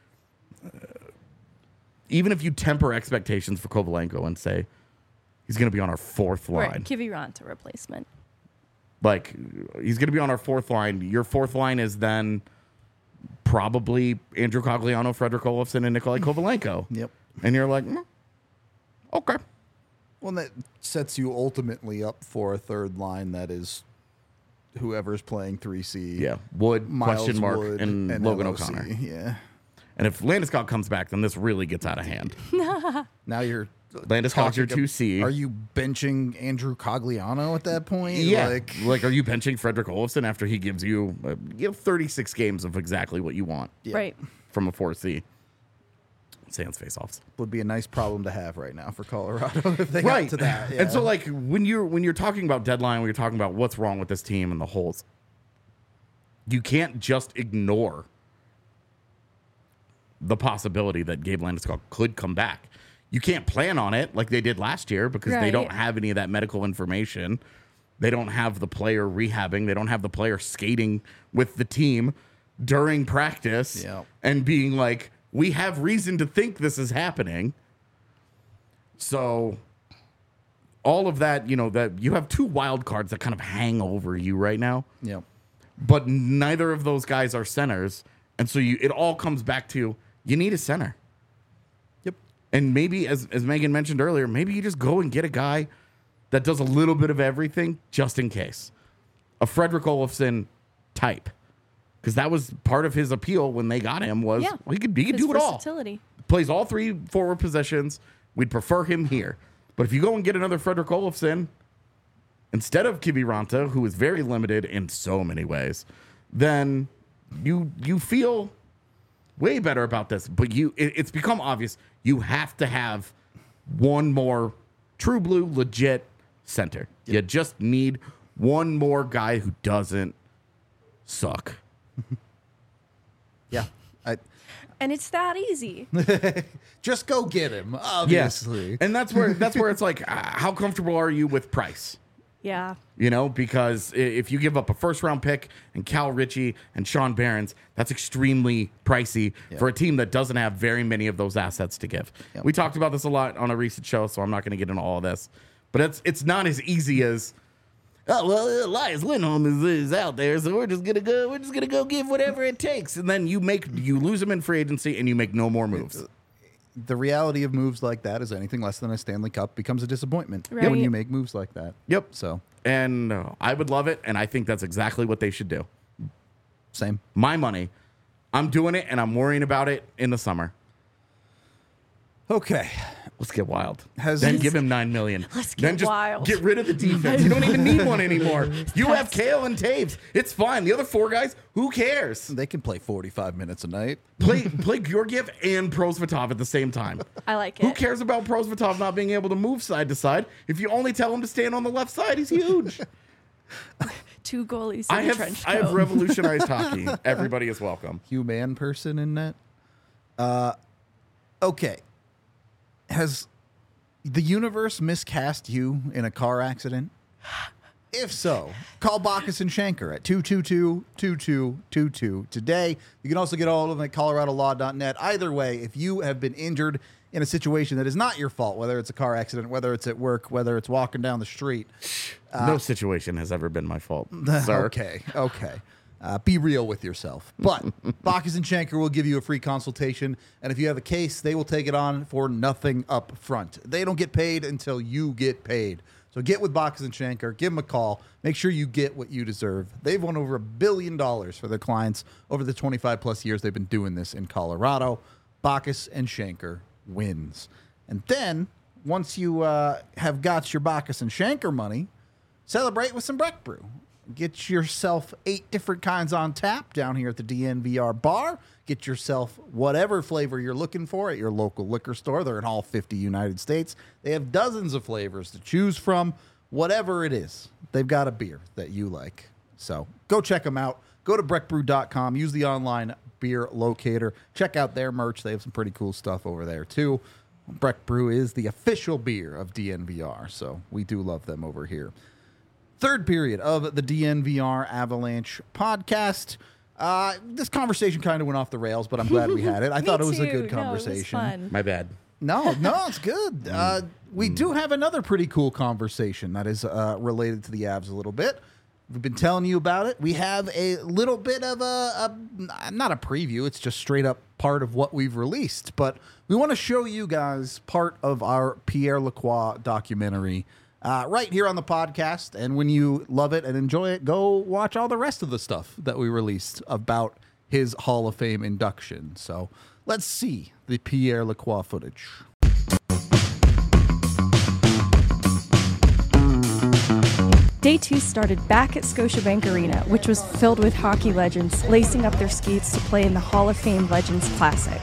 even if you temper expectations for Kovalenko and say he's going to be on our fourth line, Right, Kiviranta replacement. like he's going to be on our fourth line. Your fourth line is then probably Andrew Cogliano, Frederick Olofsson, and Nikolai Kovalenko. Yep. And you're like, okay. Well, that sets you ultimately up for a third line that is whoever's playing 3C. Yeah. Wood, Miles question mark, Wood, and Logan LOC. O'Connor. Yeah. And if Landeskog comes back, then this really gets out of hand. Now you're Landeskog's your talking- 2C. Are you benching Andrew Cogliano at that point? Yeah. Like, are you benching Frederick Olofsson after he gives you 36 games of exactly what you want Yeah. Right. from a 4C? Sans face-offs. Would be a nice problem to have right now for Colorado if they Right. got to that. Yeah. And so, like, when you're talking about deadline, when you're talking about what's wrong with this team and the holes, you can't just ignore the possibility that Gabe Landeskog could come back. You can't plan on it like they did last year because they Right. don't have any of that medical information. They don't have the player rehabbing. They don't have the player skating with the team during practice Yeah. and being like, we have reason to think this is happening. So all of that, that you have two wild cards that kind of hang over you right now, yeah. but neither of those guys are centers. And so it all comes back to you need a center. Yep. And maybe, as Megan mentioned earlier, maybe you just go and get a guy that does a little bit of everything just in case. A Frederick Olofsson type. Because that was part of his appeal when they got him was Yeah. he could His do it all. versatility. Plays all three forward positions. We'd prefer him here. But if you go and get another Frederick Olofsson instead of Kiviranta, who is very limited in so many ways, then you feel way better about this. But it's become obvious you have to have one more true blue, legit center. You just need one more guy who doesn't suck. Yeah. And it's that easy. Just go get him, obviously. Yes. And that's where it's like, how comfortable are you with price? Yeah. Because if you give up a first round pick and Cal Ritchie and Sean Barons, that's extremely pricey for a team that doesn't have very many of those assets to give. Yep. We talked about this a lot on a recent show, so I'm not going to get into all of this. But it's not as easy as, oh well, Elias Lindholm is out there, so we're just gonna go give whatever it takes, and then you lose him in free agency and you make no more moves. The reality of moves like that is anything less than a Stanley Cup becomes a disappointment Right. when you make moves like that. Yep. So, And I would love it, and I think that's exactly what they should do. same. My money, I'm doing it, and I'm worrying about it in the summer. Okay. Let's get wild. Has- Then give him $9 million. Let's Then get just wild. get rid of the defense. You don't even need one anymore. You have Kale and Taves. It's fine. The other four guys, who cares? They can play 45 minutes a night. Play Georgiev and Prosvetov at the same time. I like Who it. cares about Prosvetov not being able to move side to side? If you only tell him to stand on the left side, he's huge. Two goalies in a trench coat. I have revolutionized hockey. Everybody is welcome. Human person in net. Okay. Has the universe miscast you in a car accident? If so, call Bacchus and Shanker at 222-2222 today. You can also get all of them at coloradolaw.net. Either way, if you have been injured in a situation that is not your fault, whether it's a car accident, whether it's at work, whether it's walking down the street. No situation has ever been my fault, sir. Okay. Be real with yourself. But Bacchus and Shanker will give you a free consultation. And if you have a case, they will take it on for nothing up front. They don't get paid until you get paid. So get with Bacchus and Shanker. Give them a call. Make sure you get what you deserve. They've won over $1 billion for their clients over the 25-plus years they've been doing this in Colorado. Bacchus and Shanker wins. And then once you have got your Bacchus and Shanker money, celebrate with some Breck Brew. Get yourself 8 different kinds on tap down here at the DNVR bar. Get yourself whatever flavor you're looking for at your local liquor store. They're in all 50 United States. They have dozens of flavors to choose from. Whatever it is, they've got a beer that you like. So go check them out. Go to breckbrew.com. Use the online beer locator. Check out their merch. They have some pretty cool stuff over there, too. Breck Brew is the official beer of DNVR, so we do love them over here. Third period of the DNVR Avalanche podcast. This conversation kind of went off the rails, but I'm glad we had it. I thought it was a good conversation. No, it was fun. My bad. No, it's good. We do have another pretty cool conversation that is related to the Avs a little bit. We've been telling you about it. We have a little bit of not a preview. It's just straight up part of what we've released. But we want to show you guys part of our Pierre Lacroix documentary right here on the podcast. And when you love it and enjoy it, go watch all the rest of the stuff that we released about his Hall of Fame induction. So let's see the Pierre Lacroix footage. Day 2 started back at Scotiabank Arena, which was filled with hockey legends lacing up their skates to play in the Hall of Fame Legends Classic.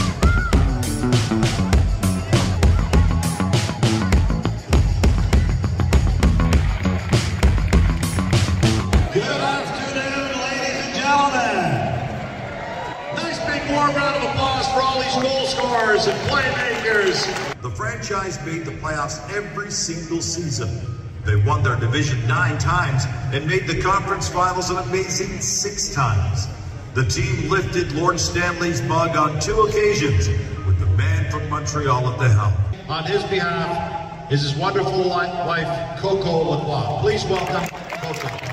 Good afternoon, ladies and gentlemen. Nice big warm round of applause for all these goal scorers and playmakers. The franchise made the playoffs every single season. They won their division 9 times and made the conference finals an amazing 6 times. The team lifted Lord Stanley's mug on 2 occasions with the man from Montreal at the helm. On his behalf is his wonderful wife, Coco Lacroix. Please welcome Coco.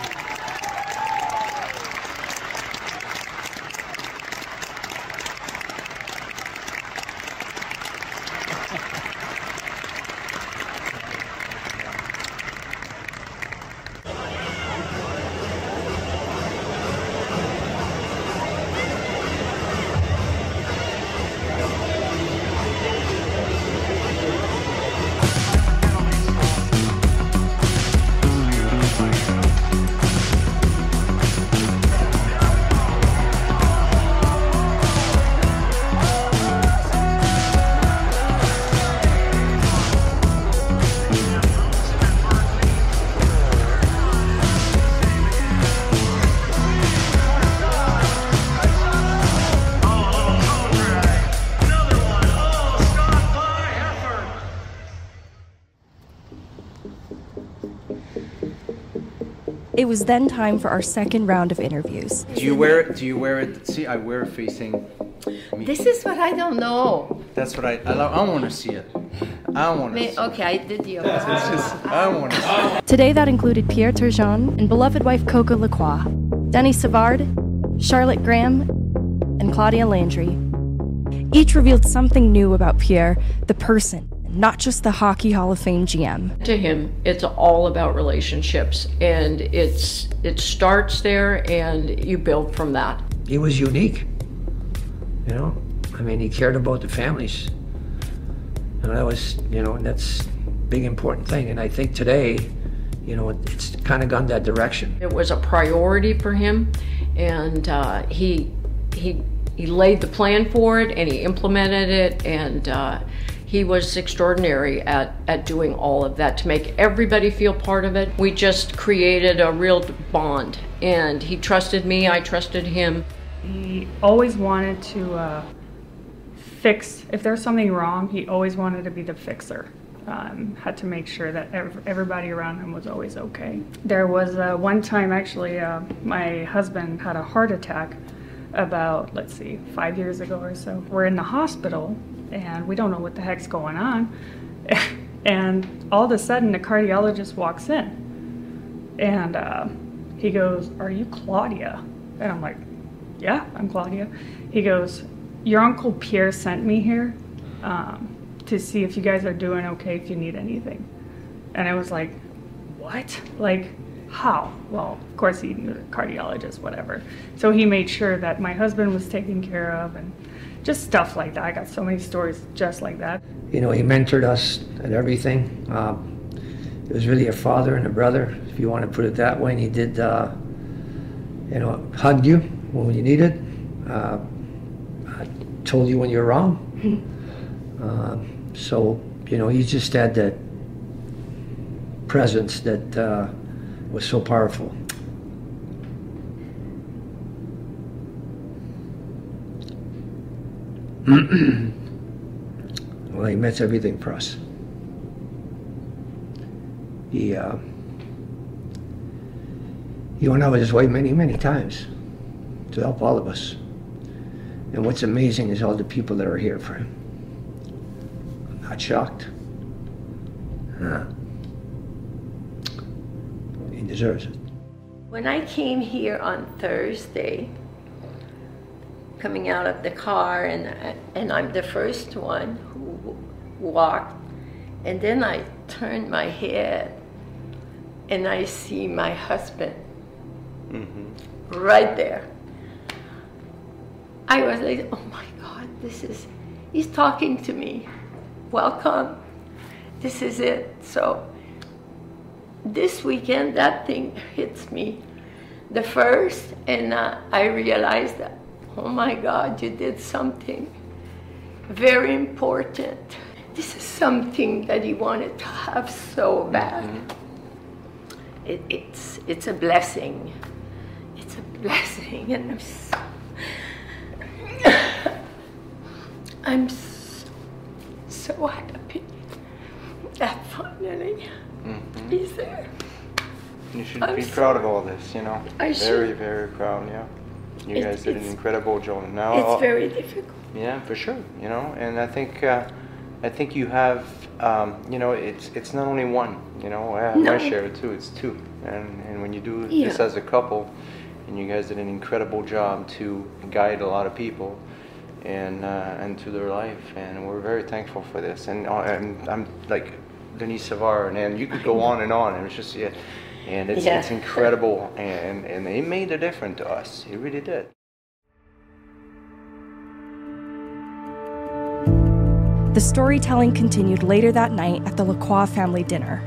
It was then time for our second round of interviews. Do you wear it? See, I wear it facing me. This is what I don't know. That's what I want to see it. I don't want to see it. Okay, I did the It's just, I don't want to see it. Today that included Pierre Turgeon and beloved wife Coco Lacroix, Denny Savard, Charlotte Graham, and Claudia Landry. Each revealed something new about Pierre, the person, not just the Hockey Hall of Fame GM. To him, it's all about relationships, and it starts there, and you build from that. He was unique, you know. I mean, he cared about the families, and that was, you know, and that's a big important thing. And I think today, you know, it's kind of gone that direction. It was a priority for him, and he laid the plan for it, and he implemented it, and he was extraordinary at doing all of that to make everybody feel part of it. We just created a real bond, and he trusted me, I trusted him. He always wanted to fix, if there's something wrong, he always wanted to be the fixer. Had to make sure that everybody around him was always okay. There was one time actually, my husband had a heart attack about, 5 years ago or so. We're in the hospital and we don't know what the heck's going on. And all of a sudden the cardiologist walks in and he goes, "Are you Claudia?" And I'm like, "Yeah, I'm Claudia." He goes, "Your Uncle Pierre sent me here to see if you guys are doing okay, if you need anything." And I was like, "What? Like, how?" Well, of course he knew the cardiologist, whatever. So he made sure that my husband was taken care of, and just stuff like that. I got so many stories just like that. You know, he mentored us and everything. It was really a father and a brother, if you want to put it that way. And he did, you know, hugged you when you needed, told you when you were wrong. So, you know, he just had that presence that was so powerful. Well, he meant everything for us. He went out of his way many, many times to help all of us. And what's amazing is all the people that are here for him. I'm not shocked. He deserves it. When I came here on Thursday, coming out of the car, and I'm the first one who walked, and then I turned my head and I see my husband right there. I was like, oh my God, he's talking to me. Welcome, this is it. So this weekend, that thing hits me the first, and I realized that, oh my God, you did something very important. This is something that he wanted to have so bad. It's a blessing. It's a blessing, and I'm so happy that finally he's there. You should be proud of all this, you know. Very, very proud, yeah. You guys did an incredible job. Now it's very difficult. Yeah, for sure, you know, and I think you have, you know, it's not only one, you know. I have my share too. It's two, and when you do this as a couple, and you guys did an incredible job to guide a lot of people, and to their life, and we're very thankful for this. And I'm like Denise Savard, and you could go on, and it was just and it's incredible, and it made a difference to us. It really did. The storytelling continued later that night at the Lacroix family dinner.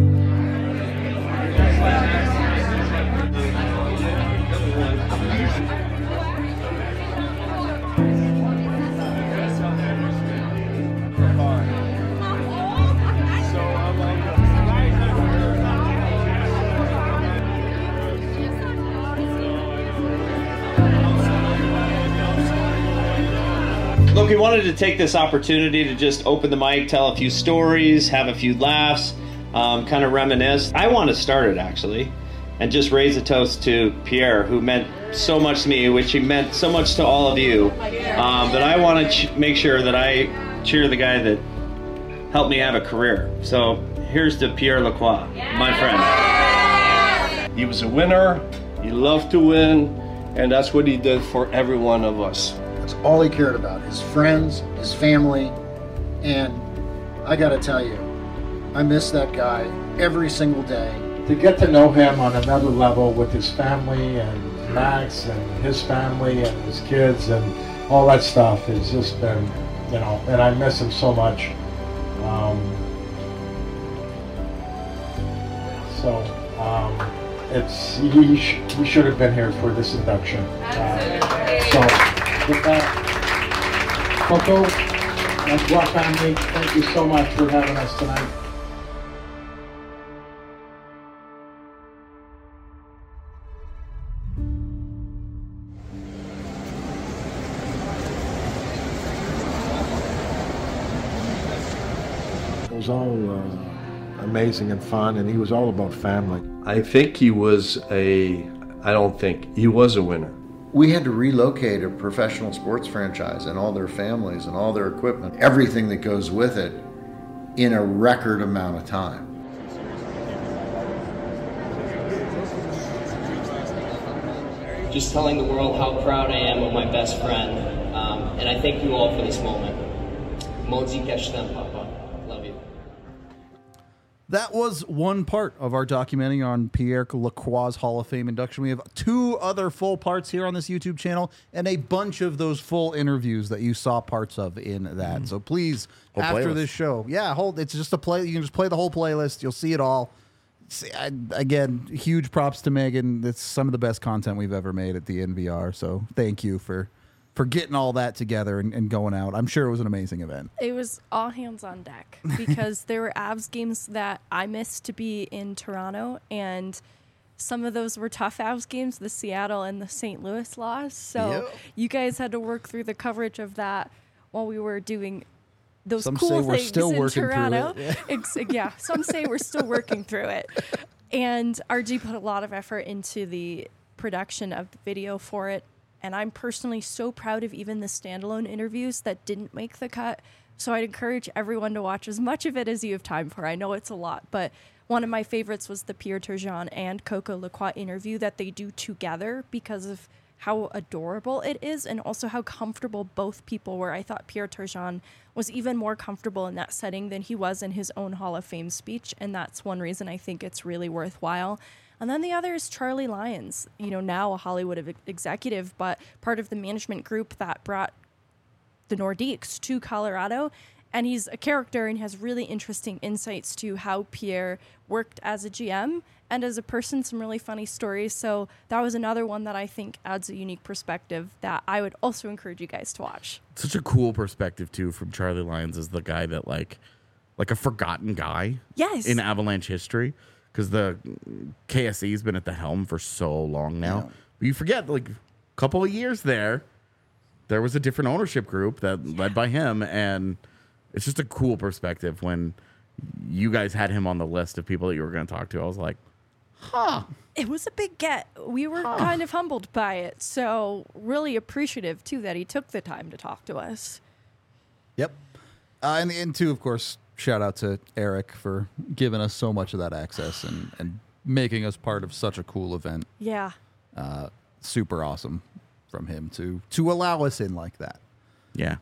Look, we wanted to take this opportunity to just open the mic, tell a few stories, have a few laughs, kind of reminisce. I want to start it, actually, and just raise a toast to Pierre, who meant so much to me, which he meant so much to all of you. But I want to make sure that I cheer the guy that helped me have a career. So here's to Pierre Lacroix, my friend. He was a winner, he loved to win, and that's what he did for every one of us. That's all he cared about, his friends, his family, and I gotta tell you, I miss that guy every single day. To get to know him on another level with his family and Max and his family and his kids and all that stuff has just been, you know, and I miss him so much. He should have been here for this induction. So with that, Coco, Lacroix family, thank you so much for having us tonight. It was all amazing and fun, and he was all about family. I think he was he was a winner. We had to relocate a professional sports franchise and all their families and all their equipment, everything that goes with it, in a record amount of time. Just telling the world how proud I am of my best friend, and I thank you all for this moment. Modzi Keshtem, Papa. Love you. That was one part of our documentary on Pierre Lacroix's Hall of Fame induction. We have 2 other full parts here on this YouTube channel and a bunch of those full interviews that you saw parts of in that. So please, Whole after playlist. this show, it's just a play. You can just play the whole playlist. You'll see it all. Again, huge props to Megan. It's some of the best content we've ever made at the NVR. So thank you for getting all that together and going out. I'm sure it was an amazing event. It was all hands on deck because there were Avs games that I missed to be in Toronto, and some of those were tough Avs games, the Seattle and the St. Louis loss. So you guys had to work through the coverage of that while we were doing those Some cool say we're things still in working through Toronto. it. Yeah, some say we're still working through it. And RG put a lot of effort into the production of the video for it. And I'm personally so proud of even the standalone interviews that didn't make the cut. So I'd encourage everyone to watch as much of it as you have time for. I know it's a lot, but one of my favorites was the Pierre Turgeon and Coco Lacroix interview that they do together because of how adorable it is and also how comfortable both people were. I thought Pierre Turgeon was even more comfortable in that setting than he was in his own Hall of Fame speech. And that's one reason I think it's really worthwhile. And then the other is Charlie Lyons, now a Hollywood executive, but part of the management group that brought the Nordiques to Colorado. And he's a character and has really interesting insights to how Pierre worked as a GM and as a person, some really funny stories. So that was another one that I think adds a unique perspective that I would also encourage you guys to watch. Such a cool perspective, too, from Charlie Lyons as the guy that, like a forgotten guy in Avalanche history. Because the KSE's been at the helm for so long now. Yeah. But you forget, a couple of years there was a different ownership group that led by him. And it's just a cool perspective when you guys had him on the list of people that you were going to talk to. I was like, It was a big get. We were kind of humbled by it. So really appreciative, too, that he took the time to talk to us. Yep. And too, of course, shout out to Eric for giving us so much of that access and making us part of such a cool event. Yeah. Super awesome from him to allow us in like that. Yeah.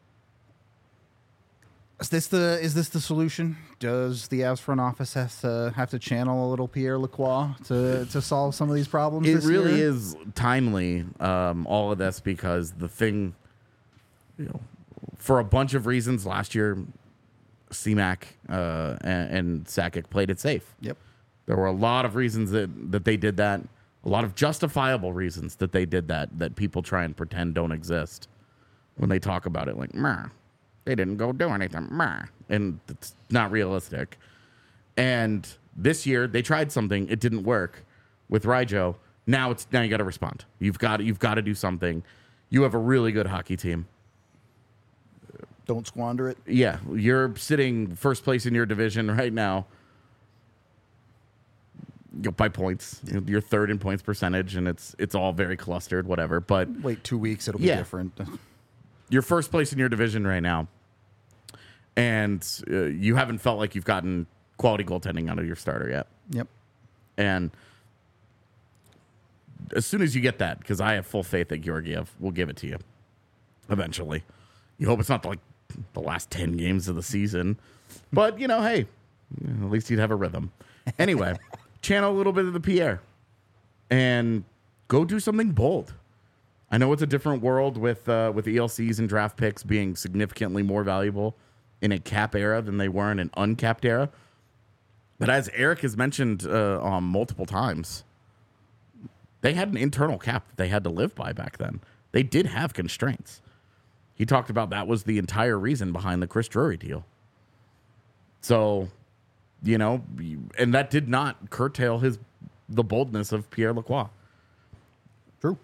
Is this the solution? Does the Avs front office have to channel a little Pierre Lacroix to solve some of these problems? It this really year? is timely, all of this, because the thing, for a bunch of reasons last year, CMAC and Sakic played it safe. Yep. There were a lot of reasons that they did that. A lot of justifiable reasons that they did that people try and pretend don't exist when they talk about it. Like, meh, they didn't go do anything. Meh. And it's not realistic. And this year they tried something. It didn't work with Ryjo. Now you got to respond. You've got to do something. You have a really good hockey team. Don't squander it. Yeah, you're sitting first place in your division right now by points. You're third in points percentage, and it's all very clustered, whatever. But wait 2 weeks, it'll be different. You're first place in your division right now, and you haven't felt like you've gotten quality goaltending out of your starter yet. Yep. And as soon as you get that, because I have full faith that Georgiev will give it to you eventually. You hope it's not like the last 10 games of the season. But, hey, at least you'd have a rhythm. Anyway, channel a little bit of the Pierre and go do something bold. I know it's a different world with ELCs and draft picks being significantly more valuable in a cap era than they were in an uncapped era. But as Eric has mentioned multiple times, they had an internal cap that they had to live by back then. They did have constraints. He talked about that was the entire reason behind the Chris Drury deal. So, and that did not curtail the boldness of Pierre Lacroix. True.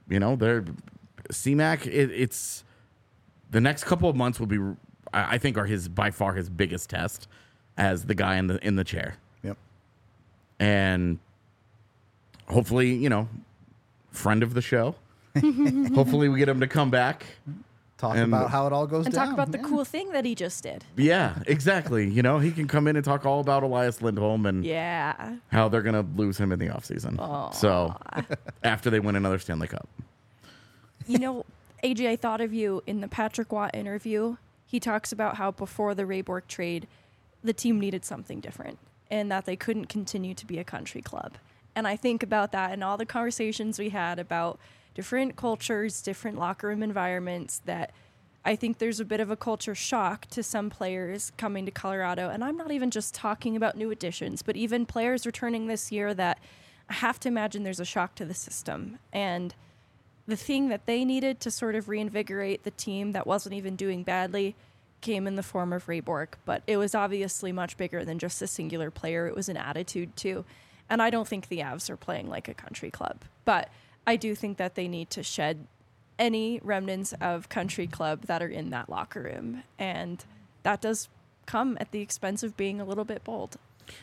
CMAC, it's the next couple of months will be, I think, are by far his biggest test as the guy in the chair. Yep. And hopefully, friend of the show. Hopefully we get him to come back. Talk about how it all goes and down. talk about the cool thing that he just did. Yeah, exactly. He can come in and talk all about Elias Lindholm and how they're going to lose him in the offseason. Aww. So after they win another Stanley Cup. AJ, I thought of you in the Patrick Watt interview. He talks about how before the Ray Bourque trade, the team needed something different. and that they couldn't continue to be a country club. And I think about that and all the conversations we had about different cultures, different locker room environments, that I think there's a bit of a culture shock to some players coming to Colorado. And I'm not even just talking about new additions, but even players returning this year that I have to imagine there's a shock to the system. And the thing that they needed to sort of reinvigorate the team that wasn't even doing badly came in the form of Ray Bourque. But it was obviously much bigger than just a singular player. It was an attitude too. And I don't think the Avs are playing like a country club. But I do think that they need to shed any remnants of country club that are in that locker room. And that does come at the expense of being a little bit bold.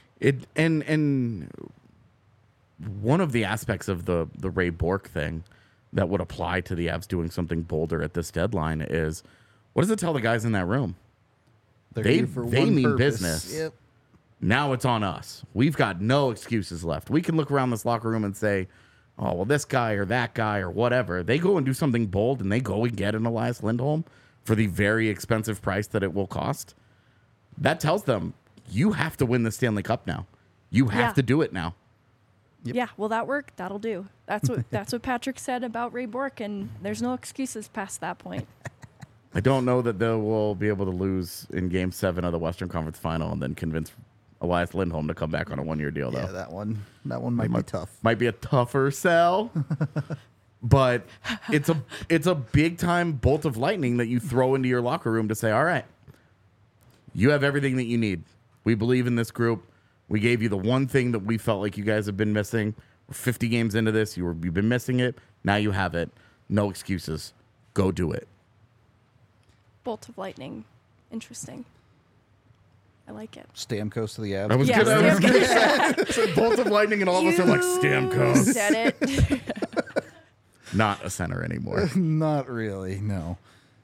And one of the aspects of the Ray Bourque thing that would apply to the Avs doing something bolder at this deadline is, what does it tell the guys in that room? They mean business. Yep. Now it's on us. We've got no excuses left. We can look around this locker room and say, oh, well, this guy or that guy or whatever. They go and do something bold, and they go and get an Elias Lindholm for the very expensive price that it will cost. That tells them, you have to win the Stanley Cup now. You have to do it now. Yep. Yeah, will that work? That'll do. That's what Patrick said about Ray Bourque, and there's no excuses past that point. I don't know that they will be able to lose in Game 7 of the Western Conference Final and then convince Elias Lindholm to come back on a 1-year deal, though. Yeah, that one might be tough. Might be a tougher sell, but it's a big time bolt of lightning that you throw into your locker room to say, all right, you have everything that you need. We believe in this group. We gave you the one thing that we felt like you guys have been missing. We're 50 games into this. You've been missing it. Now you have it. No excuses. Go do it. Bolt of lightning. Interesting. I like it. Stamkos to the Avs. I was going to say bolt of lightning, and all of us are like, Stamkos. Said it. Not a center anymore. Not really, no.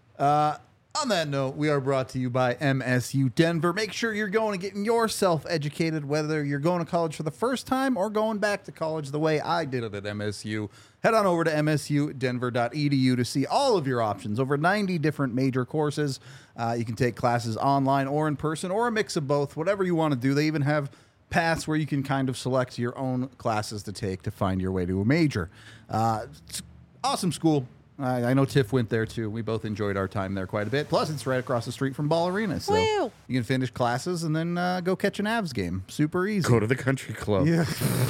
On that note, we are brought to you by MSU Denver. Make sure you're going and getting yourself educated, whether you're going to college for the first time or going back to college the way I did it at MSU. Head on over to msudenver.edu to see all of your options. Over 90 different major courses. You can take classes online or in person or a mix of both, whatever you want to do. They even have paths where you can kind of select your own classes to take to find your way to a major. It's awesome school. I know Tiff went there too. We both enjoyed our time there quite a bit. Plus, it's right across the street from Ball Arena. So Woo! You can finish classes and then go catch an Avs game. Super easy. Go to the country club. Yeah.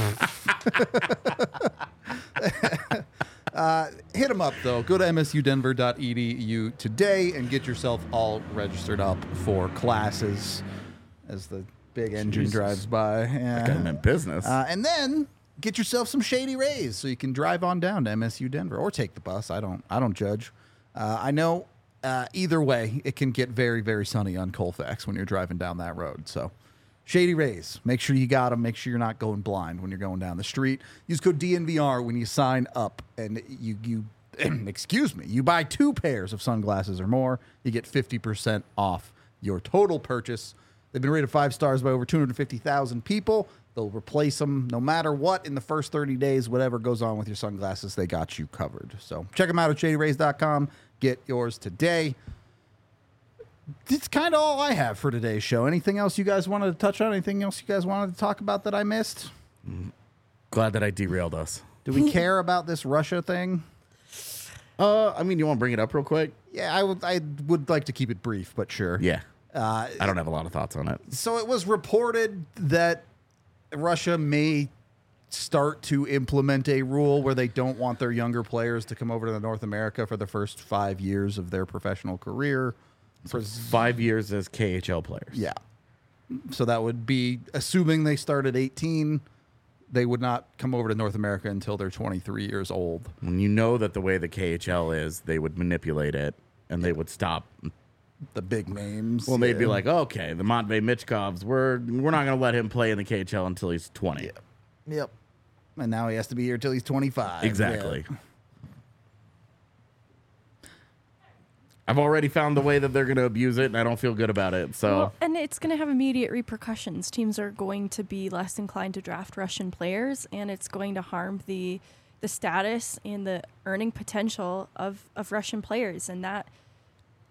Hit them up, though. Go to msudenver.edu today and get yourself all registered up for classes as the big engine drives by. That guy meant business. And then get yourself some Shady Rays so you can drive on down to MSU Denver or take the bus. I don't judge. I know either way, it can get very, very sunny on Colfax when you're driving down that road. So Shady Rays, make sure you got them. Make sure you're not going blind when you're going down the street. Use code DNVR when you sign up, and you excuse me, you buy 2 pairs of sunglasses or more, you get 50% off your total purchase. They've been rated 5 stars by over 250,000 people. They'll replace them no matter what in the first 30 days. Whatever goes on with your sunglasses, they got you covered. So check them out at shadyrays.com. Get yours today. That's kind of all I have for today's show. Anything else you guys wanted to touch on? Anything else you guys wanted to talk about that I missed? Glad that I derailed us. Do we care about this Russia thing? I mean, you want to bring it up real quick? Yeah, I would like to keep it brief, but sure. Yeah. I don't have a lot of thoughts on it. So it was reported that Russia may start to implement a rule where they don't want their younger players to come over to North America for the first 5 years of their professional career. For 5 years as KHL players. Yeah. So that would be, assuming they start at 18, they would not come over to North America until they're 23 years old. When you know that the way the KHL is, they would manipulate it and they would stop the big names. Well, they'd be like, okay, the Matvei Michkovs, we're not going to let him play in the KHL until he's 20. Yep. And now he has to be here until he's 25. Exactly. Yeah. I've already found the way that they're going to abuse it, and I don't feel good about it. So, well, and it's going to have immediate repercussions. Teams are going to be less inclined to draft Russian players, and it's going to harm the status and the earning potential of Russian players, and that,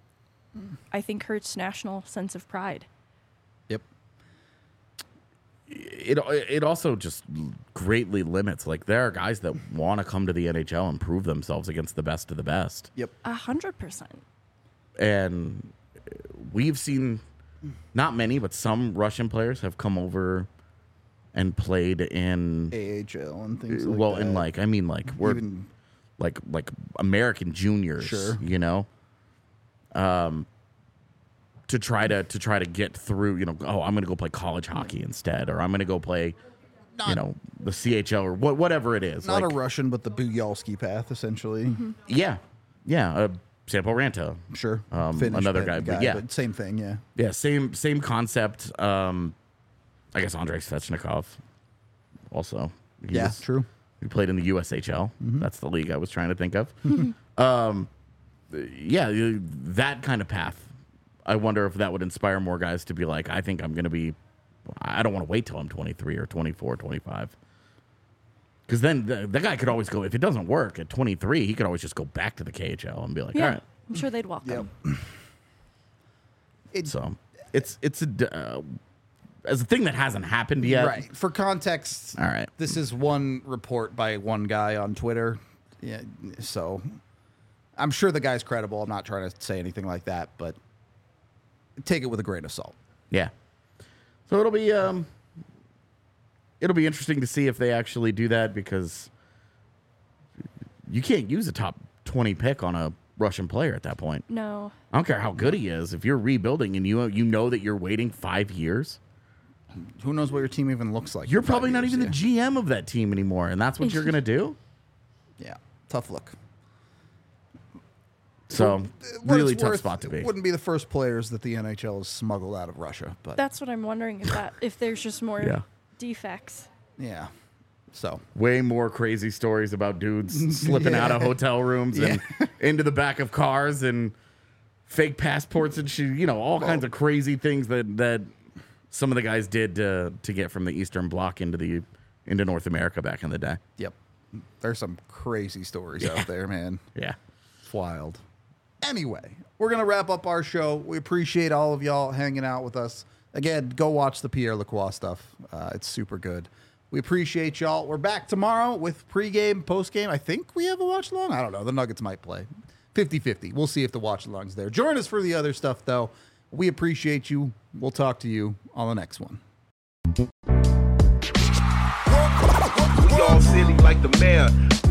I think, hurts national sense of pride. Yep. it also just greatly limits. Like, there are guys that want to come to the NHL and prove themselves against the best of the best. Yep. 100%. And we've seen not many, but some Russian players have come over and played in AHL and things like well, that. in like, I mean, like, we're Even- like American juniors, Sure. you know, to try to get through, you know, oh, I'm going to go play college hockey instead, or I'm going to go play, you know, the CHL or whatever it is. Not like, a Russian, but the Buyalski path, essentially. yeah, Sampo Ranta, Sure. another Finnish guy, but yeah, but same thing, yeah. yeah, same concept. I guess Andrei Svechnikov, also, True. He played in the USHL. That's the league I was trying to think of. Yeah, that kind of path. I wonder if that would inspire more guys to be like, I think I'm going to be, I don't want to wait till I'm 23 or 24, 25. Because then the guy could always go, if it doesn't work at 23, he could always just go back to the KHL and be like, Yeah, all right. I'm sure they'd welcome. So it's as a thing that hasn't happened yet. Right. For context, All right. This is one report by one guy on Twitter. Yeah, so I'm sure the guy's credible. I'm not trying to say anything like that, but take it with a grain of salt. Yeah. So it'll be interesting to see if they actually do that, because you can't use a top 20 pick on a Russian player at that point. No. I don't care how good he is. If you're rebuilding and you know that you're waiting 5 years, who knows what your team even looks like? You're probably not even the GM of that team anymore, and that's what you're going to do? Yeah. Tough look. So, What really it's tough worth, spot to be. It wouldn't be the first players that the NHL has smuggled out of Russia, but That's what I'm wondering, if there's just more Yeah. defects. yeah. So way more crazy stories about dudes slipping out of hotel rooms and into the back of cars and fake passports and shit, you know, all kinds of crazy things that some of the guys did to get from the Eastern Bloc into North America back in the day. Yep. There's some crazy stories out there, man. Yeah. It's wild. Anyway, we're going to wrap up our show. We appreciate all of y'all hanging out with us. Again, go watch the Pierre Lacroix stuff. It's super good. We appreciate y'all. We're back tomorrow with pregame, postgame. I think we have a watch-along. I don't know. The Nuggets might play. 50-50. We'll see if the watch-along's there. Join us for the other stuff, though. We appreciate you. We'll talk to you on the next one. We all silly like the mayor.